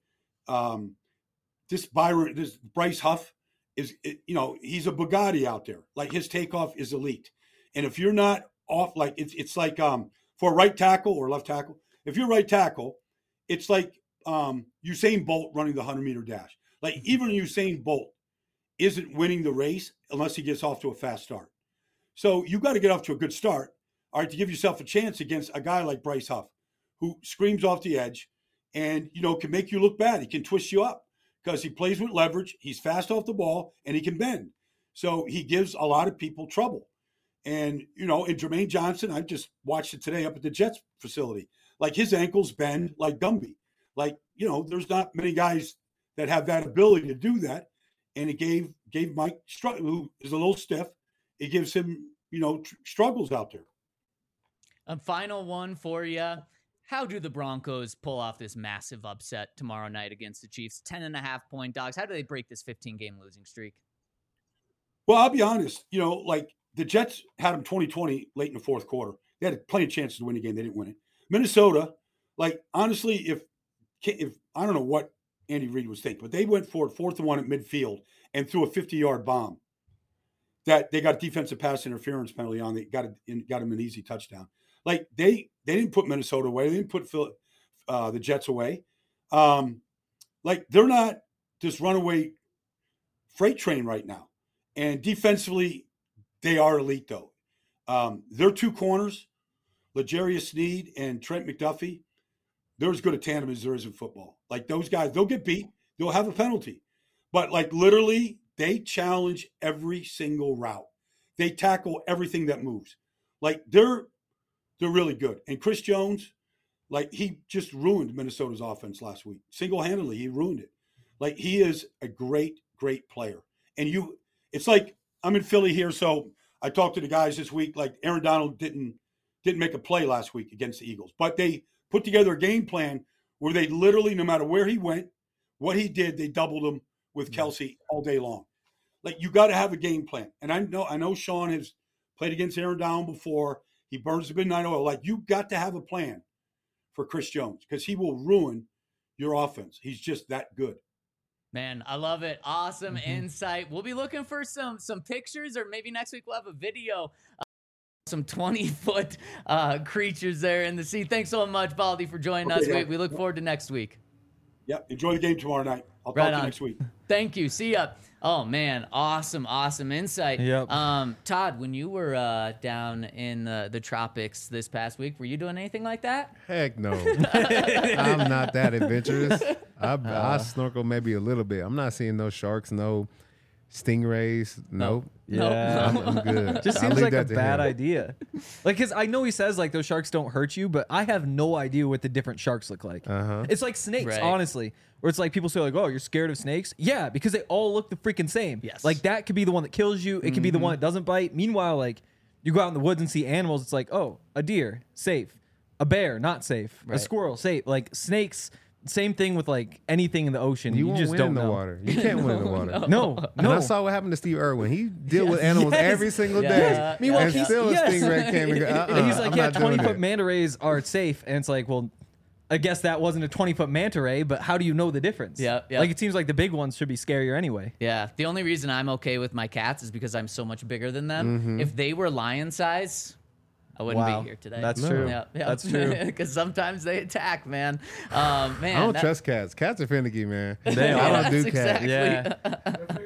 this Bryce Huff is, he's a Bugatti out there. Like, his takeoff is elite. And if you're not off, like, it's like for a right tackle or left tackle, if you're right tackle, it's like Usain Bolt running the 100-meter dash. Like, even Usain Bolt isn't winning the race unless he gets off to a fast start. So you got to get off to a good start, all right, to give yourself a chance against a guy like Bryce Huff, who screams off the edge and, can make you look bad. He can twist you up because he plays with leverage. He's fast off the ball and he can bend. So he gives a lot of people trouble. And, in Jermaine Johnson, I just watched it today up at the Jets facility. Like, his ankles bend like Gumby. Like, there's not many guys that have that ability to do that. And it gave Mike, who is a little stiff, it gives him, struggles out there. A final one for you. How do the Broncos pull off this massive upset tomorrow night against the Chiefs? 10.5-point dogs. How do they break this 15-game losing streak? Well, I'll be honest. Like, the Jets had them 20-20 late in the fourth quarter. They had plenty of chances to win the game. They didn't win it. Minnesota, like, honestly, if I don't know what Andy Reid was thinking, but they went for it 4th and 1 at midfield and threw a 50-yard bomb that they got a defensive pass interference penalty on. They got him an easy touchdown. Like, they didn't put Minnesota away. They didn't put the Jets away. Like, they're not this runaway freight train right now. And defensively, they are elite, though. Their 2 corners, L'Jarius Sneed and Trent McDuffie, they're as good a tandem as there is in football. Like, those guys, they'll get beat. They'll have a penalty. But, like, literally, they challenge every single route. They tackle everything that moves. Like, they're really good. And Chris Jones, like, he just ruined Minnesota's offense last week. Single-handedly, he ruined it. Like, he is a great, great player. And it's like, I'm in Philly here, so I talked to the guys this week. Like, Aaron Donald didn't make a play last week against the Eagles. But they put together a game plan where they literally, no matter where he went, what he did, they doubled him with Kelsey all day long. Like, you got to have a game plan. And I know Sean has played against Aaron Donald before. He burns the midnight oil. Like, you got to have a plan for Chris Jones because he will ruin your offense. He's just that good. Man, I love it. Awesome insight. We'll be looking for some pictures, or maybe next week we'll have a video. Some 20-foot creatures there in the sea. Thanks so much, Baldy, for joining us. Yeah. We look forward to next week. Yeah, enjoy the game tomorrow night. I'll Right talk to on. you next week. Thank you. See ya. Oh man, awesome insight. Yep. Todd, when you were down in the tropics this past week, were you doing anything like that? Heck no. I'm not that adventurous. I snorkel maybe a little bit. I'm not seeing no sharks, no stingrays. Nope. Yeah. I'm good. Just I'll seems leave like a that to bad him. idea. Like, because I know he says like those sharks don't hurt you, but I have no idea what the different sharks look like. It's like snakes, Right. honestly. Where it's like people say like, "Oh, you're scared of snakes?" Yeah, because they all look the freaking same. Yes. Like that could be the one that kills you. It could be the one that doesn't bite. Meanwhile, like you go out in the woods and see animals. It's like, oh, a deer, safe. A bear, not safe. A Right. squirrel, safe. Like snakes. Same thing with like anything in the ocean. You You, won't just win don't in the know. water. You can't win in the water. No, And no. I saw what happened to Steve Irwin. He deal with animals Yes. every single Yeah. day. Yeah. Meanwhile, and he's- still yes. a stingray came and go, And he's like, I'm yeah, not doing 20-foot it. manta rays are safe. And it's like, well, I guess that wasn't a 20-foot manta ray, but how do you know the difference? Yeah, yeah. Like, it seems like the big ones should be scarier anyway. Yeah. The only reason I'm okay with my cats is because I'm so much bigger than them. If they were lion size, I wouldn't Wow. be here today. That's true. Yeah, yeah. That's true. Because sometimes they attack, man. Man, I don't that- trust cats. Cats are finicky, man. They I are. don't do That's cats. exactly-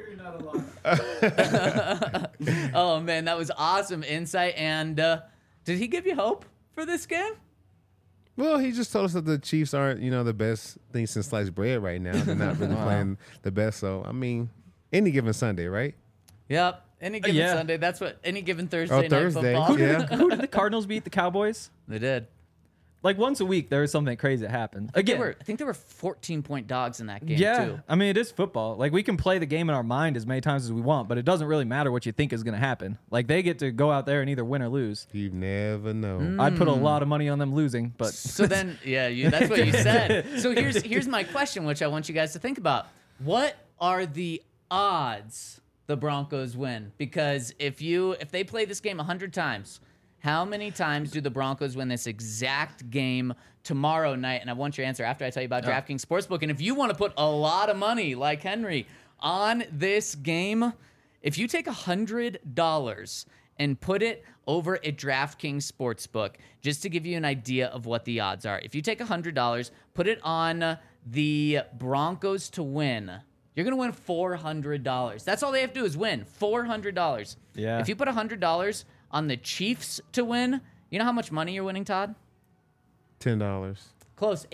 Yeah. Oh man, that was awesome insight. And did he give you hope for this game? Well, he just told us that the Chiefs aren't, the best thing since sliced bread right now. They're not really playing the best. So, I mean, any given Sunday, right? Yep. Any given yeah. Sunday. That's what. Any given Thursday Oh, night Thursday. football. Yeah. Who did the Cardinals beat the Cowboys? They did. Like, once a week, there is something crazy that happens. Again, I think there were 14-point dogs in that game yeah. too. I mean, it is football. Like, we can play the game in our mind as many times as we want, but it doesn't really matter what you think is going to happen. Like, they get to go out there and either win or lose. You never know. I'd put a lot of money on them losing, but So then, yeah, that's what you said. So here's my question, which I want you guys to think about. What are the odds the Broncos win? Because if they play this game 100 times, how many times do the Broncos win this exact game tomorrow night? And I want your answer after I tell you about DraftKings Sportsbook. And if you want to put a lot of money, like Henry, on this game, if you take $100 and put it over at DraftKings Sportsbook, just to give you an idea of what the odds are. If you take $100, put it on the Broncos to win, you're going to win $400. That's all they have to do is win, $400. Yeah. If you put $100 on the Chiefs to win, you know how much money you're winning, Todd? $10. Close,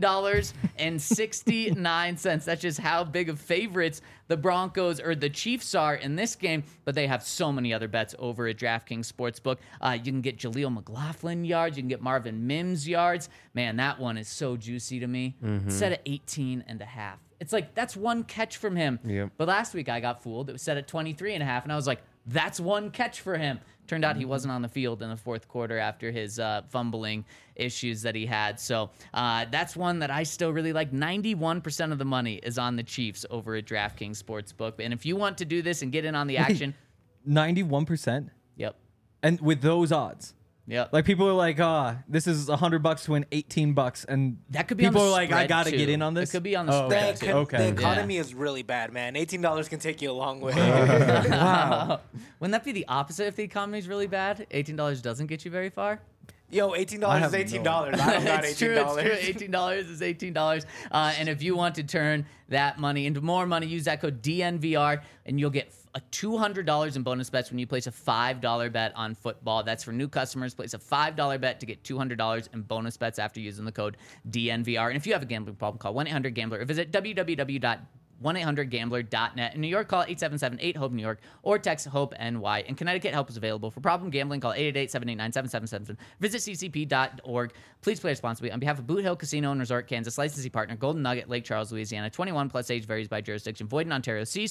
$18.69. That's just how big of favorites the Broncos or the Chiefs are in this game, but they have so many other bets over at DraftKings Sportsbook. You can get Jaleel McLaughlin yards. You can get Marvin Mims yards. Man, that one is so juicy to me. It's set at 18.5. It's like, that's one catch from him. Yep. But last week I got fooled. It was set at 23.5, and I was like, that's one catch for him. Turned out he wasn't on the field in the fourth quarter after his fumbling issues that he had. So that's one that I still really like. 91% of the money is on the Chiefs over at DraftKings Sportsbook. And if you want to do this and get in on the action, 91%. yep. And with those odds. Yep. Like, people are like, this is $100 to win $18, and That could be on people the are like, I spread, gotta too. get in on this. It could be on the Oh, spread, okay. too. Okay. The economy is really bad, man. $18 can take you a long way. Wow. Wouldn't that be the opposite if the economy is really bad? $18 doesn't get you very far? Yo, $18 I is have $18. no- I don't got It's true, $18. it's true. $18 is $18. And if you want to turn that money into more money, use that code DNVR, and you'll get a $200 in bonus bets when you place a $5 bet on football. That's for new customers. Place a $5 bet to get $200 in bonus bets after using the code DNVR. And if you have a gambling problem, call 1-800-GAMBLER or visit www.1800gambler.net. In New York, call 877-8-HOPE-NEW YORK or text HOPE-NY. In Connecticut, help is available. For problem gambling, call 888-789-7777. Visit ccp.org. Please play responsibly. On behalf of Boot Hill Casino and Resort, Kansas, licensee partner, Golden Nugget, Lake Charles, Louisiana, 21 plus, age varies by jurisdiction, void in Ontario. See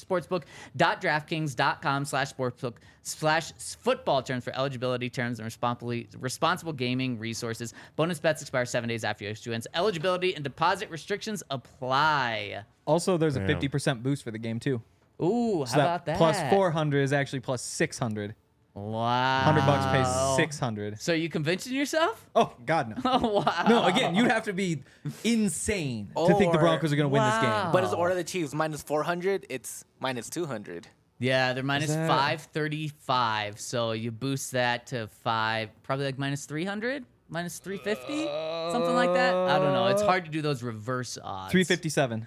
sportsbook.draftkings.com/sportsbook/football terms for eligibility, terms, and responsible gaming resources. Bonus bets expire 7 days after issuance. Eligibility and deposit restrictions apply. Also, there's a 50% boost for the game, too. Ooh, So how about that? Plus 400 is actually plus 600. Wow. $100 pays 600. So you convincing yourself? Oh, God, no. Oh, wow. No, again, you'd have to be insane to think the Or- Broncos are going to win this game. Wow. But as order the Chiefs minus 400, it's minus 200. Yeah, they're minus that- 535. So you boost that to probably like minus 300, minus 350, something like that. I don't know. It's hard to do those reverse odds. 357.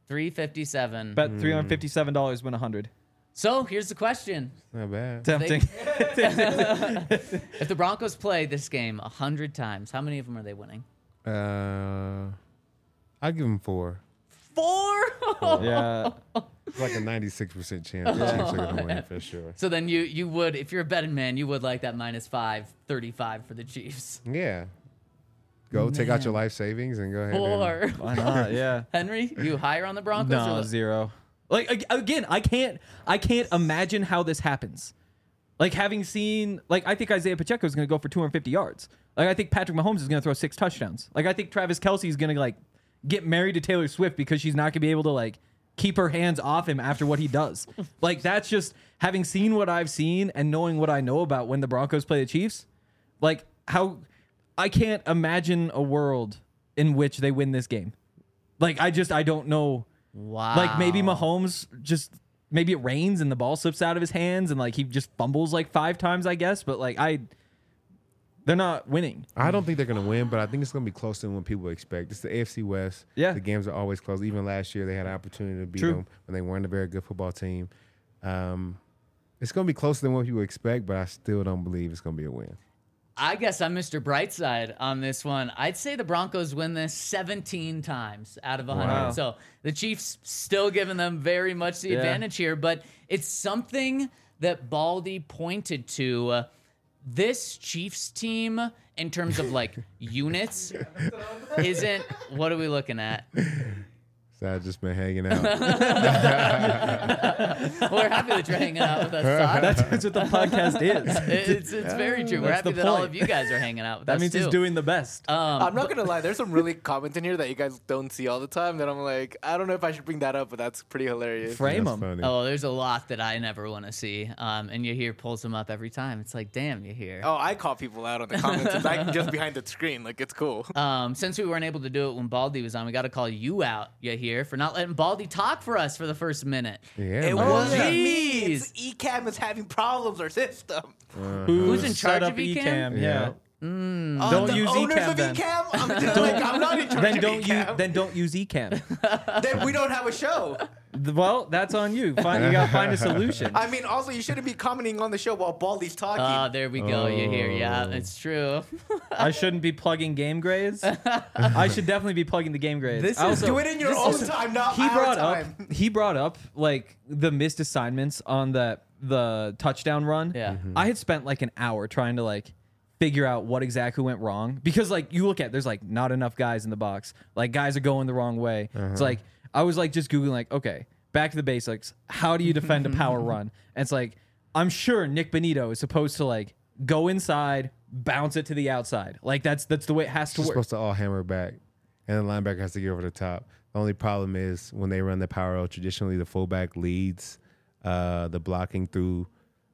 $357. Bet $357 win 100. So here's the question. Not bad. Tempting. If the Broncos play this game 100 times, how many of them are they winning? I'll give them 4. 4? Yeah. It's like a 96% chance the Chiefs are going to win for sure. So then you would, if you're a betting man, you would like that -535 for the Chiefs. Yeah. Go take out your life savings and go ahead. 4. Why not? Yeah. Henry, you higher on the Broncos? No, or 0. Like again, I can't imagine how this happens. Like having seen, like I think Isaiah Pacheco is going to go for 250 yards. Like I think Patrick Mahomes is going to throw 6 touchdowns. Like I think Travis Kelce is going to like get married to Taylor Swift because she's not going to be able to like keep her hands off him after what he does. Like that's just having seen what I've seen and knowing what I know about when the Broncos play the Chiefs. Like how I can't imagine a world in which they win this game. Like I don't know. Wow. Like maybe Mahomes maybe it rains and the ball slips out of his hands and like he just fumbles like 5 times, I guess. But like they're not winning. I don't think they're going to win, but I think it's going to be closer than what people expect. It's the AFC West. Yeah. The games are always close. Even last year, they had an opportunity to beat them when they weren't a very good football team. It's going to be closer than what people expect, but I still don't believe it's going to be a win. I guess I'm Mr. Brightside on this one. I'd say the Broncos win this 17 times out of 100. Wow. So the Chiefs still giving them very much the advantage here, but it's something that Baldy pointed to. This Chiefs team, in terms of like units, isn't. What are we looking at? So I've just been hanging out. We're happy that you're hanging out with us, Todd. That's what the podcast is. It's very true. We're That's happy the that all point. of you guys are hanging out with That us means too. he's doing the best. I'm not gonna lie. There's some really comments in here that you guys don't see all the time. That I'm like, I don't know if I should bring that up, but that's pretty hilarious. Frame That's him. funny. Oh, there's a lot that I never want to see. And Yahir pulls them up every time. It's like, damn, Yahir. Oh, I call people out on the comments. It's like just behind the screen. Like it's cool. Since we weren't able to do it when Baldy was on, we got to call you out, Yahir, for not letting Baldy talk for us for the first minute. Yeah, It man. wasn't Jeez. me. It's ECAM is having problems or system. Who's in charge set up of ECAM? Yeah. Don't Don't use owners ECAM of then. ECAM? I'm not in charge Then of don't ECAM. don't use eCam. Then we don't have a show. Well, that's on you. You gotta find a solution. I mean, also you shouldn't be commenting on the show while Baldy's talking. There we go, Yahir. Yeah, it's true. I shouldn't be plugging game grades. I should definitely be plugging the game grades. I also- Do it in your own time, not he our brought time. up he brought up like the missed assignments on the touchdown run. Yeah. I had spent like an hour trying to like figure out what exactly went wrong because like you look at there's like not enough guys in the box. Like guys are going the wrong way. It's like I was like just googling like okay, back to the basics. How do you defend a power run? And it's like I'm sure Nick Benito is supposed to like go inside, bounce it to the outside. Like that's the way it has to It's work. supposed to all hammer back, and the linebacker has to get over the top. The only problem is when they run the power roll, traditionally the fullback leads the blocking through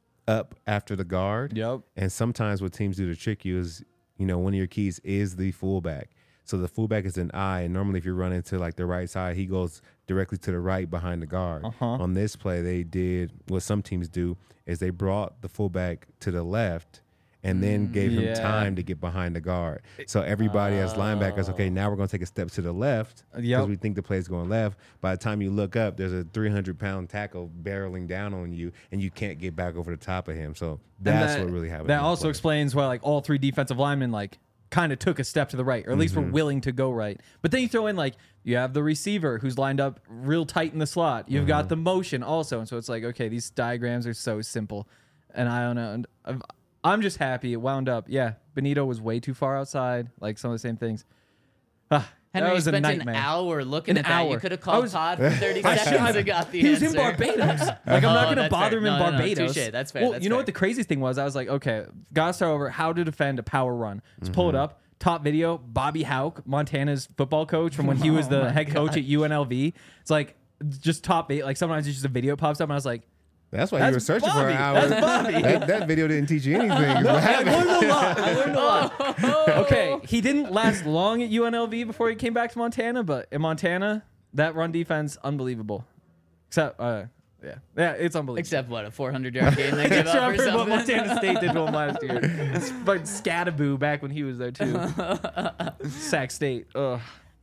up after the guard. Yep. And sometimes what teams do to trick you is, one of your keys is the fullback. So the fullback is an eye, and normally if you're running to like the right side, he goes directly to the right behind the guard. On this play, they did what some teams do is they brought the fullback to the left and then gave him Yeah. time to get behind the guard. So everybody as linebackers, okay, now we're going to take a step to the left because Yep. we think the play's going left. By the time you look up, there's a 300-pound tackle barreling down on you, and you can't get back over the top of him. So that's what really happened. That in the also play. explains why like all 3 defensive linemen like kind of took a step to the right, or at least were willing to go right. But then you throw in like you have the receiver who's lined up real tight in the slot. You've got the motion also, and so it's like okay, these diagrams are so simple, and I don't know. And I'm just happy it wound up. Yeah, Benito was way too far outside. Like some of the same things. Henry, that was you a spent nightmare. an hour looking An at that. You hour. could have I called was- Todd for 30 seconds and got the He was answer. in Barbados. Like I'm not going to that's bother fair. him in No, no, no, Barbados. touche. That's fair. Well, That's you know fair. what the craziest thing was? I was like, okay, gotta start over. How to defend a power run? Let's pull it up. Top video. Bobby Houck, Montana's football coach from when he was the head coach at UNLV. It's like just top 8. Like sometimes it's just a video pops up and I was like, That's why you were That's searching for an Bobby. hour. That's Bobby. That video didn't teach you anything. What I happened? learned a lot. I learned a lot. Okay, he didn't last long at UNLV before he came back to Montana, but in Montana, that run defense, unbelievable. Except, yeah, it's unbelievable. Except what, a 400-yard game they gave Except up or for what something? Montana State did to him last year. But Scattaboo back when he was there too. Sac State. Ugh.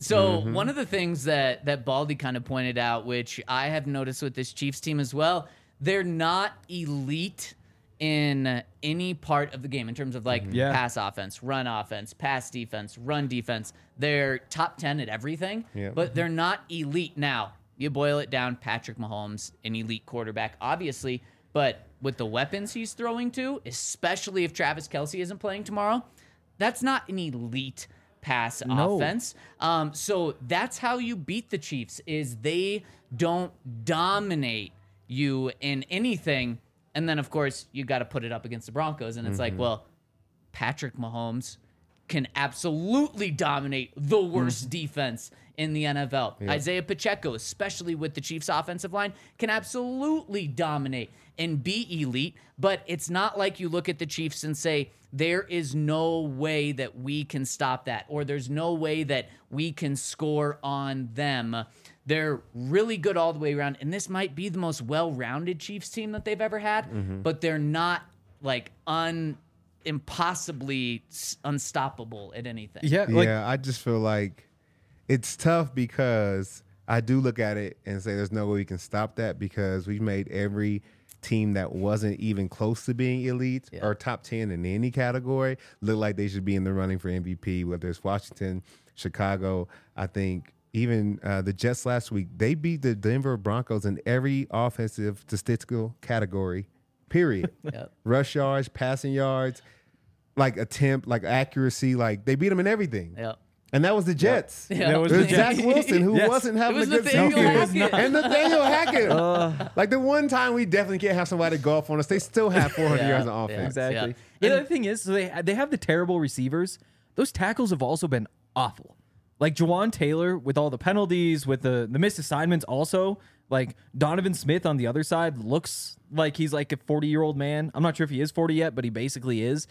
So one of the things that Baldy kind of pointed out, which I have noticed with this Chiefs team as well, they're not elite in any part of the game in terms of like pass offense, run offense, pass defense, run defense. They're top 10 at everything, but they're not elite. Now, you boil it down, Patrick Mahomes, an elite quarterback, obviously, but with the weapons he's throwing to, especially if Travis Kelce isn't playing tomorrow, that's not an elite pass offense. So that's how you beat the Chiefs, is they don't dominate you in anything. And then, of course, you got to put it up against the Broncos. And it's like, well, Patrick Mahomes can absolutely dominate the worst defense in the NFL. Yep. Isaiah Pacheco, especially with the Chiefs' offensive line, can absolutely dominate and be elite. But it's not like you look at the Chiefs and say, there is no way that we can stop that, or there's no way that we can score on them. They're really good all the way around, and this might be the most well-rounded Chiefs team that they've ever had, but they're not like impossibly unstoppable at anything. Yeah, I just feel like it's tough because I do look at it and say there's no way we can stop that, because we've made every team that wasn't even close to being elite or top 10 in any category look like they should be in the running for MVP, whether it's Washington, Chicago. I think even the Jets last week, they beat the Denver Broncos in every offensive statistical category, period. Rush yards, passing yards, like attempt, like accuracy, like they beat them in everything. And that was the Jets. Yeah. It was Zach Wilson, who wasn't having a good season. And Nathaniel Hackett. Like the one time we definitely can't have somebody go off on us, they still have 400 yards on offense. Exactly. The other thing is, so they have the terrible receivers. Those tackles have also been awful. Like Jawan Taylor with all the penalties, with the missed assignments also. Like Donovan Smith on the other side looks like he's like a 40-year-old man. I'm not sure if he is 40 yet, but he basically is.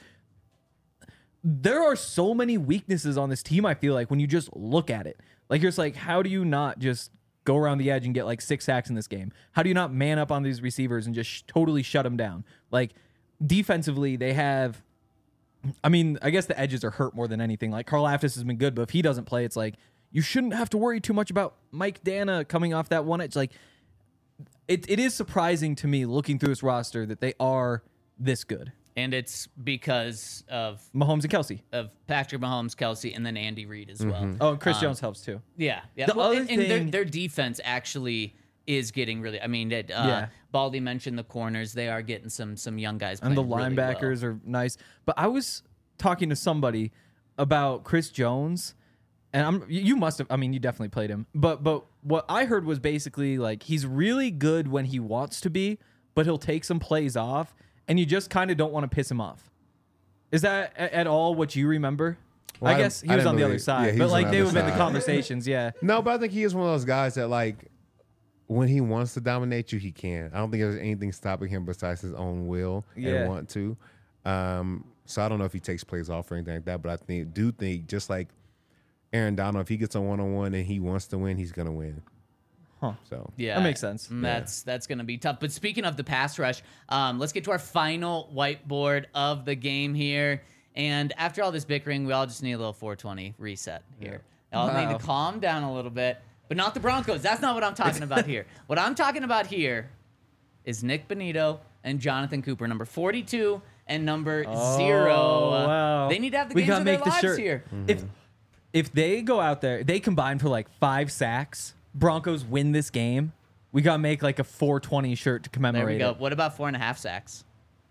There are so many weaknesses on this team, I feel like, when you just look at it. Like, you're just like, how do you not just go around the edge and get like 6 sacks in this game? How do you not man up on these receivers and just totally shut them down? Like, defensively, they have... I mean, I guess the edges are hurt more than anything. Like, Karl Aftis has been good, but if he doesn't play, it's like, you shouldn't have to worry too much about Mike Dana coming off that one edge. Like, it is surprising to me, looking through this roster, that they are this good. And it's because of Mahomes and Kelce. Of Patrick Mahomes, Kelce, and then Andy Reid as well. Oh, and Chris Jones helps too. Yeah. The other thing, and their defense actually is getting really... I mean, Baldy mentioned the corners. They are getting some young guys playing. And the really linebackers well. are nice. But I was talking to somebody about Chris Jones, and you must have... I mean, you definitely played him. But what I heard was basically like, he's really good when he wants to be, but he'll take some plays off, and you just kind of don't want to piss him off. Is that at all what you remember? Well, I guess he was on the other side, but like they would have been the conversations, No, but I think he is one of those guys that like, when he wants to dominate you, he can. I don't think there's anything stopping him besides his own will and want to. So I don't know if he takes plays off or anything like that, but I do think just like Aaron Donald, if he gets a one-on-one and he wants to win, he's gonna win. So yeah, that makes sense. That's going to be tough. But speaking of the pass rush, let's get to our final whiteboard of the game here. And after all this bickering, we all just need a little 420 reset here. Y'all need to calm down a little bit, but not the Broncos. That's not what I'm talking about here. What I'm talking about here is Nick Bonito and Jonathan Cooper, number 42 and number 0. Wow. They need to have the games of their lives here. If they go out there, they combine for like 5 sacks. Broncos win this game, we gotta make like a 420 shirt to commemorate. There we go. It. What about 4.5 sacks?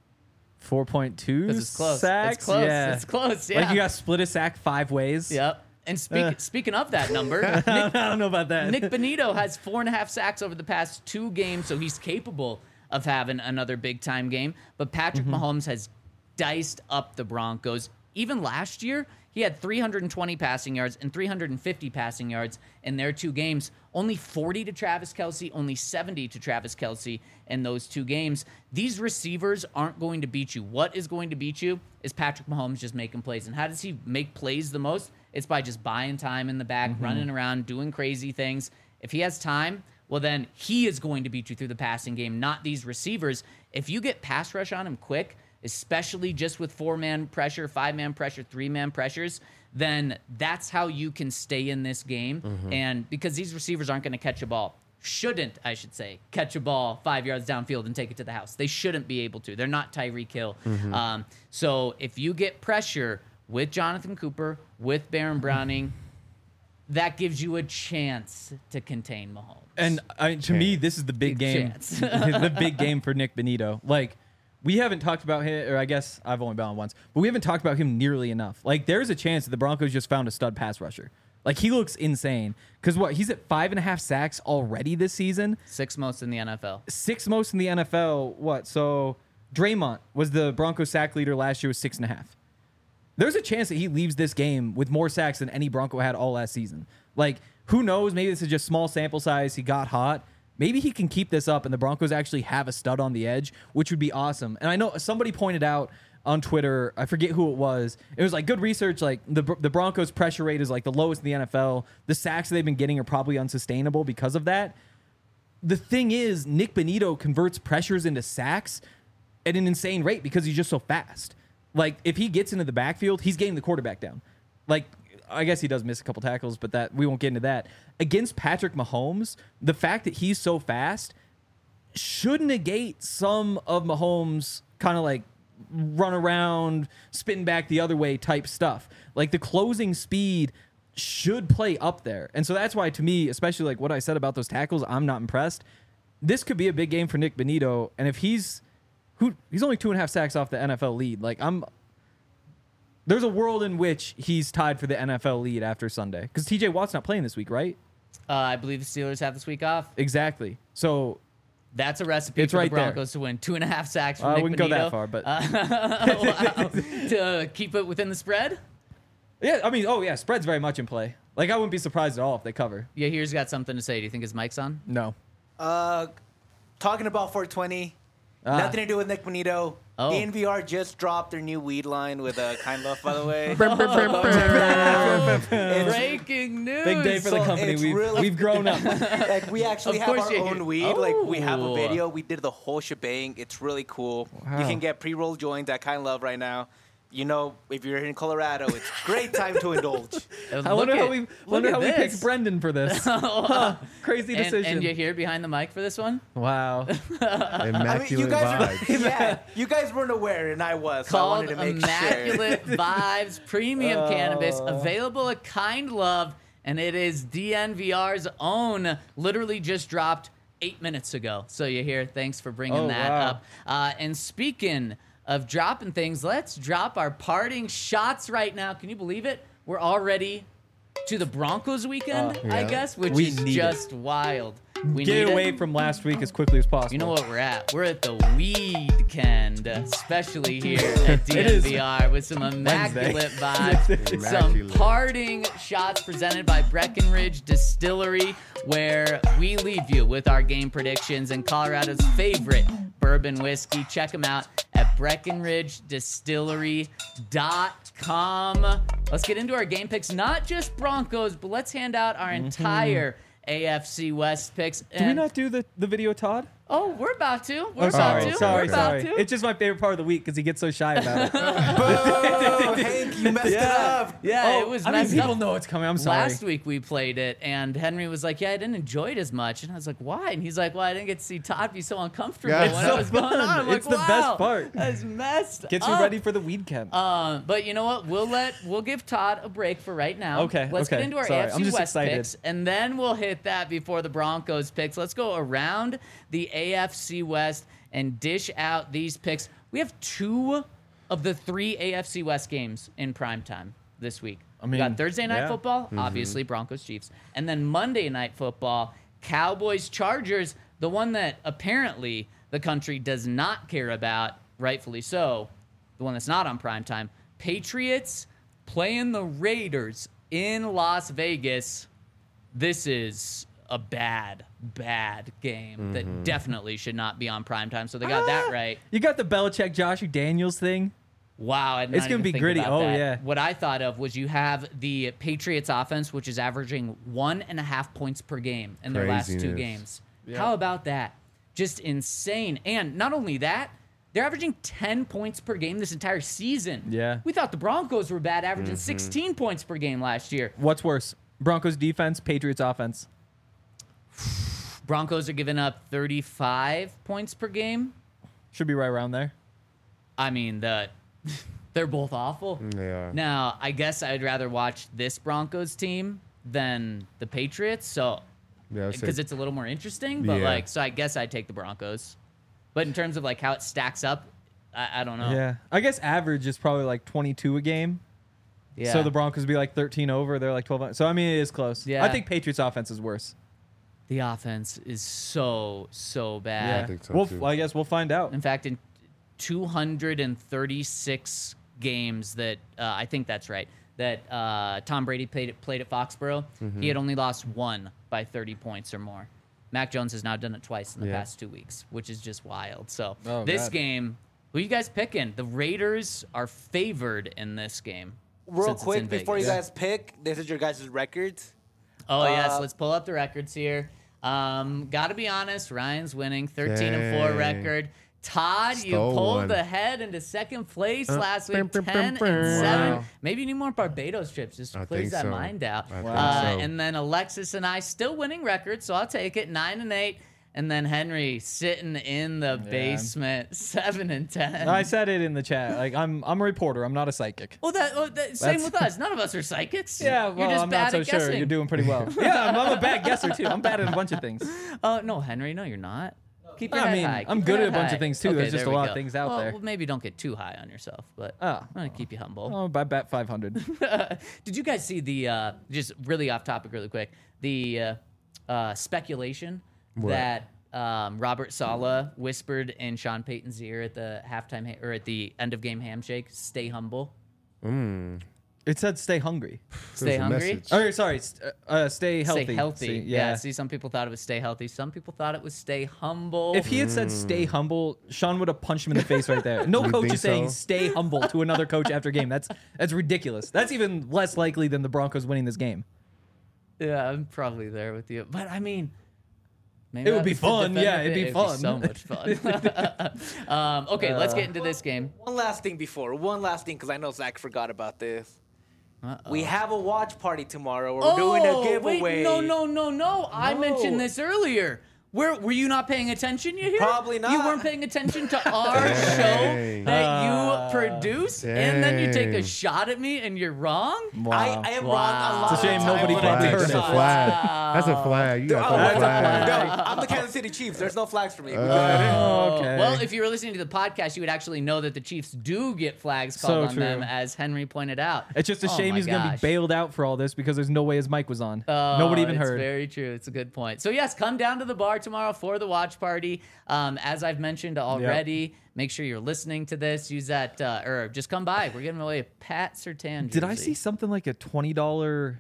4.2 because it's close. sacks. It's close. Yeah. It's close. Yeah. Like you got to split a sack 5 ways. Yep. And speaking of that number, Nick, I don't know about that. Nick Bonito has 4.5 sacks over the past 2 games, so he's capable of having another big time game. But Patrick Mahomes has diced up the Broncos. Even last year, he had 320 passing yards and 350 passing yards in their 2 games. Only 40 to Travis Kelce, only 70 to Travis Kelce in those 2 games. These receivers aren't going to beat you. What is going to beat you is Patrick Mahomes just making plays. And how does he make plays the most? It's by just buying time in the back, running around, doing crazy things. If he has time, well, then he is going to beat you through the passing game, not these receivers. If you get pass rush on him quick, especially just with 4-man pressure, 5-man pressure, 3-man pressures, then that's how you can stay in this game. And because these receivers aren't going to catch a ball, shouldn't, I should say, catch a ball 5 yards downfield and take it to the house. They shouldn't be able to. They're not Tyreek Hill. So if you get pressure with Jonathan Cooper, with Baron Browning, that gives you a chance to contain Mahomes. And to me, this is the big game. The big game for Nick Bonito. Like, we haven't talked about him, or I guess I've only been on once, but we haven't talked about him nearly enough. Like, there's a chance that the Broncos just found a stud pass rusher. Like, he looks insane. Because he's at 5.5 sacks already this season. 6 most in the NFL. 6 most in the NFL. So Draymond was the Broncos sack leader last year with 6.5. There's a chance that he leaves this game with more sacks than any Bronco had all last season. Like, who knows? Maybe this is just small sample size. He got hot. Maybe he can keep this up and the Broncos actually have a stud on the edge, which would be awesome. And I know somebody pointed out on Twitter, I forget who it was. It was like good research. Like the Broncos pressure rate is like the lowest in the NFL. The sacks they've been getting are probably unsustainable because of that. The thing is, Nick Bonito converts pressures into sacks at an insane rate because he's just so fast. Like, if he gets into the backfield, he's getting the quarterback down. Like, I guess he does miss a couple tackles, but that we won't get into that. Against Patrick Mahomes, the fact that he's so fast should negate some of Mahomes' kind of like run around, spin back the other way type stuff. Like, the closing speed should play up there. And so that's why, to me, especially like what I said about those tackles, I'm not impressed. This could be a big game for Nick Bonito. And if he's only 2.5 sacks off the NFL lead. Like, there's a world in which he's tied for the NFL lead after Sunday. Because TJ Watt's not playing this week, right? I believe the Steelers have this week off. Exactly. So that's a recipe for the Broncos to win 2.5 sacks from Nick Bonito. I wouldn't go that far, but to keep it within the spread. Yeah, I mean, spread's very much in play. Like, I wouldn't be surprised at all if they cover. Yeah, here's got something to say. Do you think his mic's on? No. Talking about 420. Nothing to do with Nick Bonito. Oh. DNVR just dropped their new weed line with Kind Love, by the way. Breaking news. Big day for the company. We've grown up. Like, we actually Of have course our you own hear- weed. Like, we have a Oh. video. We did the whole shebang. It's really cool. Wow. You can get pre-roll joints at Kind Love right now. You know, if you're in Colorado, it's a great time to indulge. I wonder how we this. picked Brendan for this. Crazy decision. And you hear behind the mic for this one? Wow. Immaculate you guys vibes. you guys weren't aware, and I was. So I Called wanted to make Immaculate sure. Vibes Premium Cannabis, available at Kind Love, and it is DNVR's own. Literally just dropped 8 minutes ago. So you hear, thanks for bringing that wow. up. And speaking of dropping things, let's drop our parting shots right now. Can you believe it? We're already to the Broncos weekend, I guess, which We is need just wild. We Get need away it. from last week as quickly as possible. You know what we're at? We're at the Weekend, especially here at DNVR with some immaculate vibes, some Immaculate. parting shots presented by Breckenridge Distillery, where we leave you with our game predictions and Colorado's favorite bourbon whiskey. Check them out at BreckenridgeDistillery.com. Let's get into our game picks, not just Broncos, but let's hand out our entire AFC West picks. Did we not do the video, Todd? Oh, we're about to. We're about Sorry. to. We're about to. It's just my favorite part of the week because he gets so shy about it. Oh, Hank, you messed it up. Yeah, it was I mean, messed people up. know it's coming. I'm sorry. Last week we played it, and Henry was like, "Yeah, I didn't enjoy it as much." And I was like, "Why?" And he's like, "Well, I didn't get to see Todd be so uncomfortable Yeah, when it's I so was going fun. on." I'm like, It's the best part. That's messed Gets up. you ready for the weekend. But you know what? We'll give Todd a break for right now. Okay, Let's get okay. into our Sorry, AFC I'm just West excited. picks, and then we'll hit that before the Broncos picks. Let's go around the AFC West and dish out these picks. We have 2 of the 3 AFC West games in primetime this week. We got Thursday night football, obviously Broncos Chiefs, and then Monday night football, Cowboys Chargers, the one that apparently the country does not care about, rightfully so, the one that's not on primetime. Patriots playing the Raiders in Las Vegas. This is a bad game that definitely should not be on primetime. So they got that right. You got the Belichick Josh Daniels thing. Wow, I did It's not gonna even be think gritty. about Oh, that. yeah. What I thought of was you have the Patriots offense, which is averaging 1.5 points per game in their last 2 Craziness. games. How about that? Just insane. And not only that, They're averaging 10 points per game this entire season. Yeah. We thought the Broncos were bad, averaging 16 points per game last year. What's worse? Broncos defense, Patriots offense. Broncos are giving up 35 points per game. Should be right around there. I mean, they're both awful. They are. Now, I guess I'd rather watch this Broncos team than the Patriots, so Yeah, I'd say- because it's a little more interesting. But Yeah. so I guess I'd take the Broncos. But in terms of like how it stacks up, I don't know. Yeah. I guess average is probably like 22 a game. Yeah. So the Broncos be like 13 over. They're like 12. So, I mean, it is close. Yeah. I think Patriots offense is worse. The offense is so bad. I think so, Well, too. I guess we'll find out. In fact, in 236 games that I think that's right, that Tom Brady played at Foxborough, he had only lost one by 30 points or more. Mac Jones has now done it twice in the past 2 weeks, which is just wild. So Oh, this God. game, who you guys picking? The Raiders are favored in this game. Real since it's quick in before you Vegas. guys pick, this is your guys' records. Oh yes, let's pull up the records here. Gotta be honest, Ryan's winning 13-4 Dang. record. Todd, you Stole pulled one. ahead into second place last week, brum, 10 brum, and brum. 7. Wow. Maybe you need more Barbados trips just I clears think that so. mind out. I think so. And then Alexis and I still winning records, so I'll take it 9 and 8. And then Henry sitting in the basement 7 and 10. I said it in the chat. Like I'm a reporter. I'm not a psychic. Well, same That's- with us. None of us are psychics. Yeah, You're well, just I'm bad not so at sure. guessing. You're doing pretty well. Yeah, I'm a bad guesser too. I'm bad at a bunch of things. No, Henry, no, you're not. Keep your I head mean, high. I'm Keep good your at a head bunch of high. things, too. Okay, There's just there a we lot go. of things out there. Well, maybe don't get too high on yourself, but Oh. I'm gonna keep you humble. Oh, I bet 500. Did you guys see the just really off topic, really quick? The speculation that Robert Saleh whispered in Sean Payton's ear at the halftime or at the end of game handshake. Stay humble. It said stay hungry. Stay There's a hungry. message. Oh, sorry. Stay healthy. Stay healthy. See, yeah. See, some people thought it was stay healthy. Some people thought it was stay humble. If he had said stay humble, Sean would have punched him in the face right there. No You coach think is saying so? stay humble to another coach after a game. That's ridiculous. That's even less likely than the Broncos winning this game. Yeah, I'm probably there with you. But I mean, maybe It would that be was the fun. defender Yeah, it'd thing. be fun. so much fun. Okay, let's get into this game. One last thing, because I know Zach forgot about this. Uh-oh. We have a watch party tomorrow. We're doing a giveaway. Wait, no. I mentioned this earlier. Were you not paying attention? You hear? Probably not. You weren't paying attention to our show Dang. that you produce, and then you take a Dang. shot at me, and you're wrong. Wow. I am wrong a lot. It's a shame of nobody times. probably heard That's it. a flag. That's a flag. You got Oh, to that's throw a a flag. No, I'm the Kansas City Chiefs. There's no flags for me. Oh, okay. Well, if you were listening to the podcast, you would actually know that the Chiefs do get flags called So on true. them, as Henry pointed out. It's just a Oh shame my he's going to be gosh. bailed out for all this because there's no way his mic was on. Oh, Nobody even it's heard. Very true. It's a good point. So yes, come down to the bar tomorrow for the watch party. As I've mentioned already, make sure you're listening to this. Use that, or just come by. We're giving away a Pat Surtain jersey. Did I see something like a $20?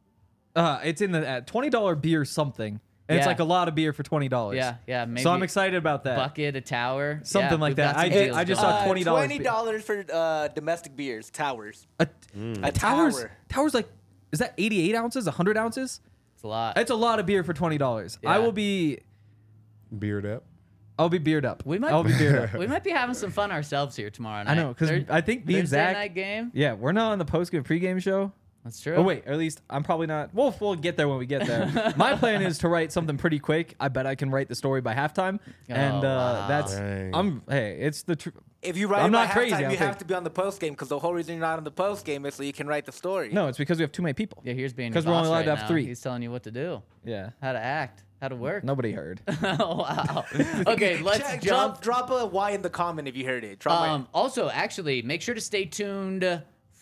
It's in the $20 beer something, and it's Yeah. like a lot of beer for $20. Yeah. Maybe So I'm excited about that. bucket, a tower, Something Yeah, like we've got that. some I deals just going saw on. $20 $20 for domestic beers, towers. A towers. tower. Towers like is that 88 ounces? 100 ounces? It's a lot. It's a lot of beer for $20. Yeah. I will be. Beard up. I'll be beered up. We might. I'll be beered up. We might be having some fun ourselves here tomorrow night. I know because I think me and Thursday Zach. night game. Yeah, we're not on the post-game pregame show. That's true. Oh wait, or at least I'm probably not. We'll get there when we get there. My plan is to write something pretty quick. I bet I can write the story by halftime, and wow. that's. Dang. It's the truth. If you write I'm it by not crazy, halftime, I'll you have take- to be on the post game because the whole reason you're not on the post game is so you can write the story. No, it's because we have too many people. Yeah, here's being 'Cause your we're only boss allowed to right have now. 3. He's telling you what to do, Yeah, how to act, how to work. nobody heard. Oh, wow. Okay, let's jump. Drop a Y in the comment if you heard it. Drop Also, actually, make sure to stay tuned.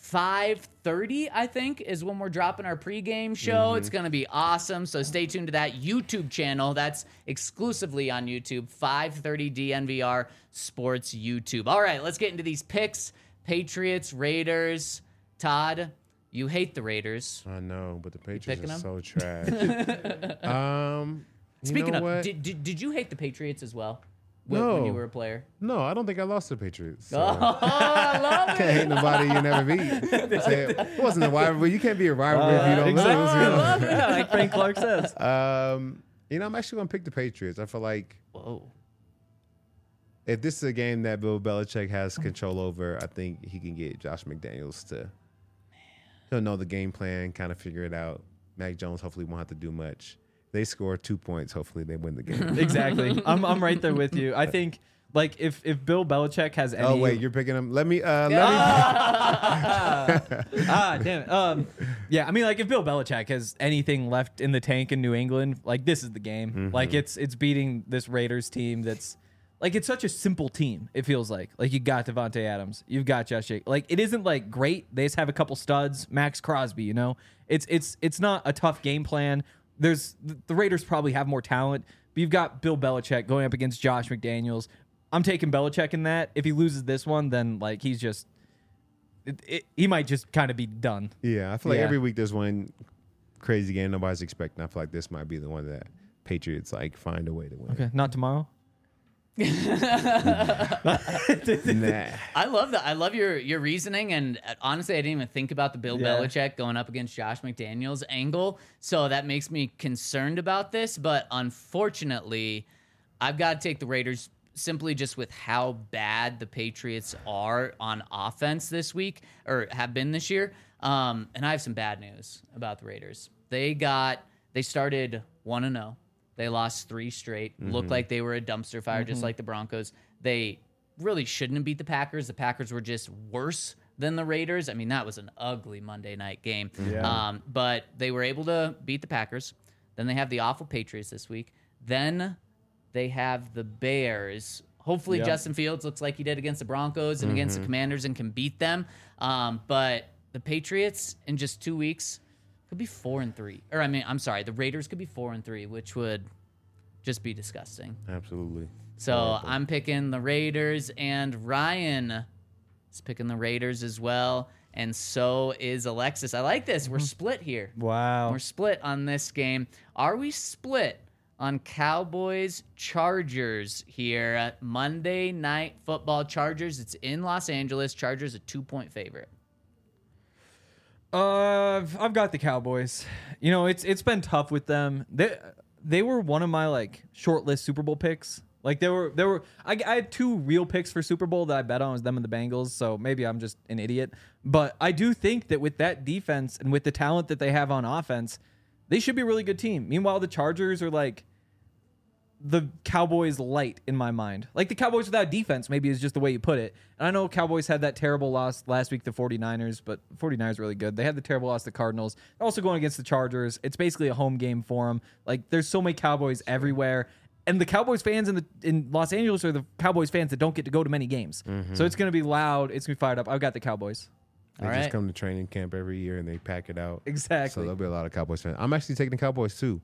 5:30, I think, is when we're dropping our pregame show. It's going to be awesome. So stay tuned to that YouTube channel. That's exclusively on YouTube. 5:30 DNVR Sports YouTube. All right, let's get into these picks. Patriots, Raiders. Todd, you hate the Raiders. I know, but the Patriots picking are them? so trash. Speaking know of, what? did you hate the Patriots as well No. when you were a player? No, I don't think I lost to the Patriots. So. Oh, I love it. Can't hate nobody you never beat. Say, it wasn't a rivalry. You can't be a rivalry if you don't exactly. lose. You know? Yeah, like Frank Clark says. I'm actually gonna pick the Patriots. I feel like Whoa. if this is a game that Bill Belichick has control over, I think he can get Josh McDaniels to. He'll know the game plan, kind of figure it out. Mac Jones hopefully won't have to do much. They score 2 points. Hopefully they win the game. Exactly. I'm right there with you. I think like if Bill Belichick has any. Oh wait, you're picking him. Let me. Damn it. Yeah, I mean, like if Bill Belichick has anything left in the tank in New England, like this is the game. Mm-hmm. Like it's beating this Raiders team that's like it's such a simple team. It feels like you got Devontae Adams, you've got Josh Jacobs. Like it isn't like great. They just have a couple studs. Max Crosby, you know. It's not a tough game plan. The Raiders probably have more talent, but you've got Bill Belichick going up against Josh McDaniels. I'm taking Belichick in that. If he loses this one, then like he's just he might just kind of be done. Yeah, I feel like every week there's one crazy game nobody's expecting. I feel like this might be the one that Patriots like find a way to win. Okay, not tomorrow. Nah. I love that. I love your reasoning, and honestly, I didn't even think about the Bill Belichick going up against Josh McDaniels angle, so that makes me concerned about this. But unfortunately, I've got to take the Raiders simply just with how bad the Patriots are on offense this week, or have been this year. And I have some bad news about the Raiders. They started 1-0. They lost 3 straight. Looked like they were a dumpster fire, just like the Broncos. They really shouldn't have beat the Packers. The Packers were just worse than the Raiders. I mean, that was an ugly Monday night game. Yeah. But they were able to beat the Packers. Then they have the awful Patriots this week. Then they have the Bears. Hopefully Justin Fields looks like he did against the Broncos and against the Commanders and can beat them. But the Patriots in just 2 weeks could be 4-3. Or I'm sorry, the Raiders could be 4-3, which would just be disgusting. Absolutely. So I'm picking the Raiders, and Ryan is picking the Raiders as well, and so is Alexis. I like this. We're split here. Wow. We're split on this game. Are we split on Cowboys-Chargers here at Monday Night Football? Chargers, it's in Los Angeles. Chargers a 2-point favorite. I've got the Cowboys. You know, it's been tough with them. They were one of my like short list Super Bowl picks. Like I had 2 real picks for Super Bowl that I bet on, was them and the Bengals. So maybe I'm just an idiot. But I do think that with that defense and with the talent that they have on offense, they should be a really good team. Meanwhile, the Chargers are like the Cowboys light in my mind. Like the Cowboys without defense maybe is just the way you put it. And I know Cowboys had that terrible loss last week to 49ers, but 49ers are really good. They had the terrible loss to Cardinals. They're also going against the Chargers. It's basically a home game for them. Like there's so many Cowboys everywhere. And the Cowboys fans in Los Angeles are the Cowboys fans that don't get to go to many games. So it's going to be loud. It's going to be fired up. I've got the Cowboys. They just come to training camp every year and they pack it out. Exactly. So there'll be a lot of Cowboys fans. I'm actually taking the Cowboys too.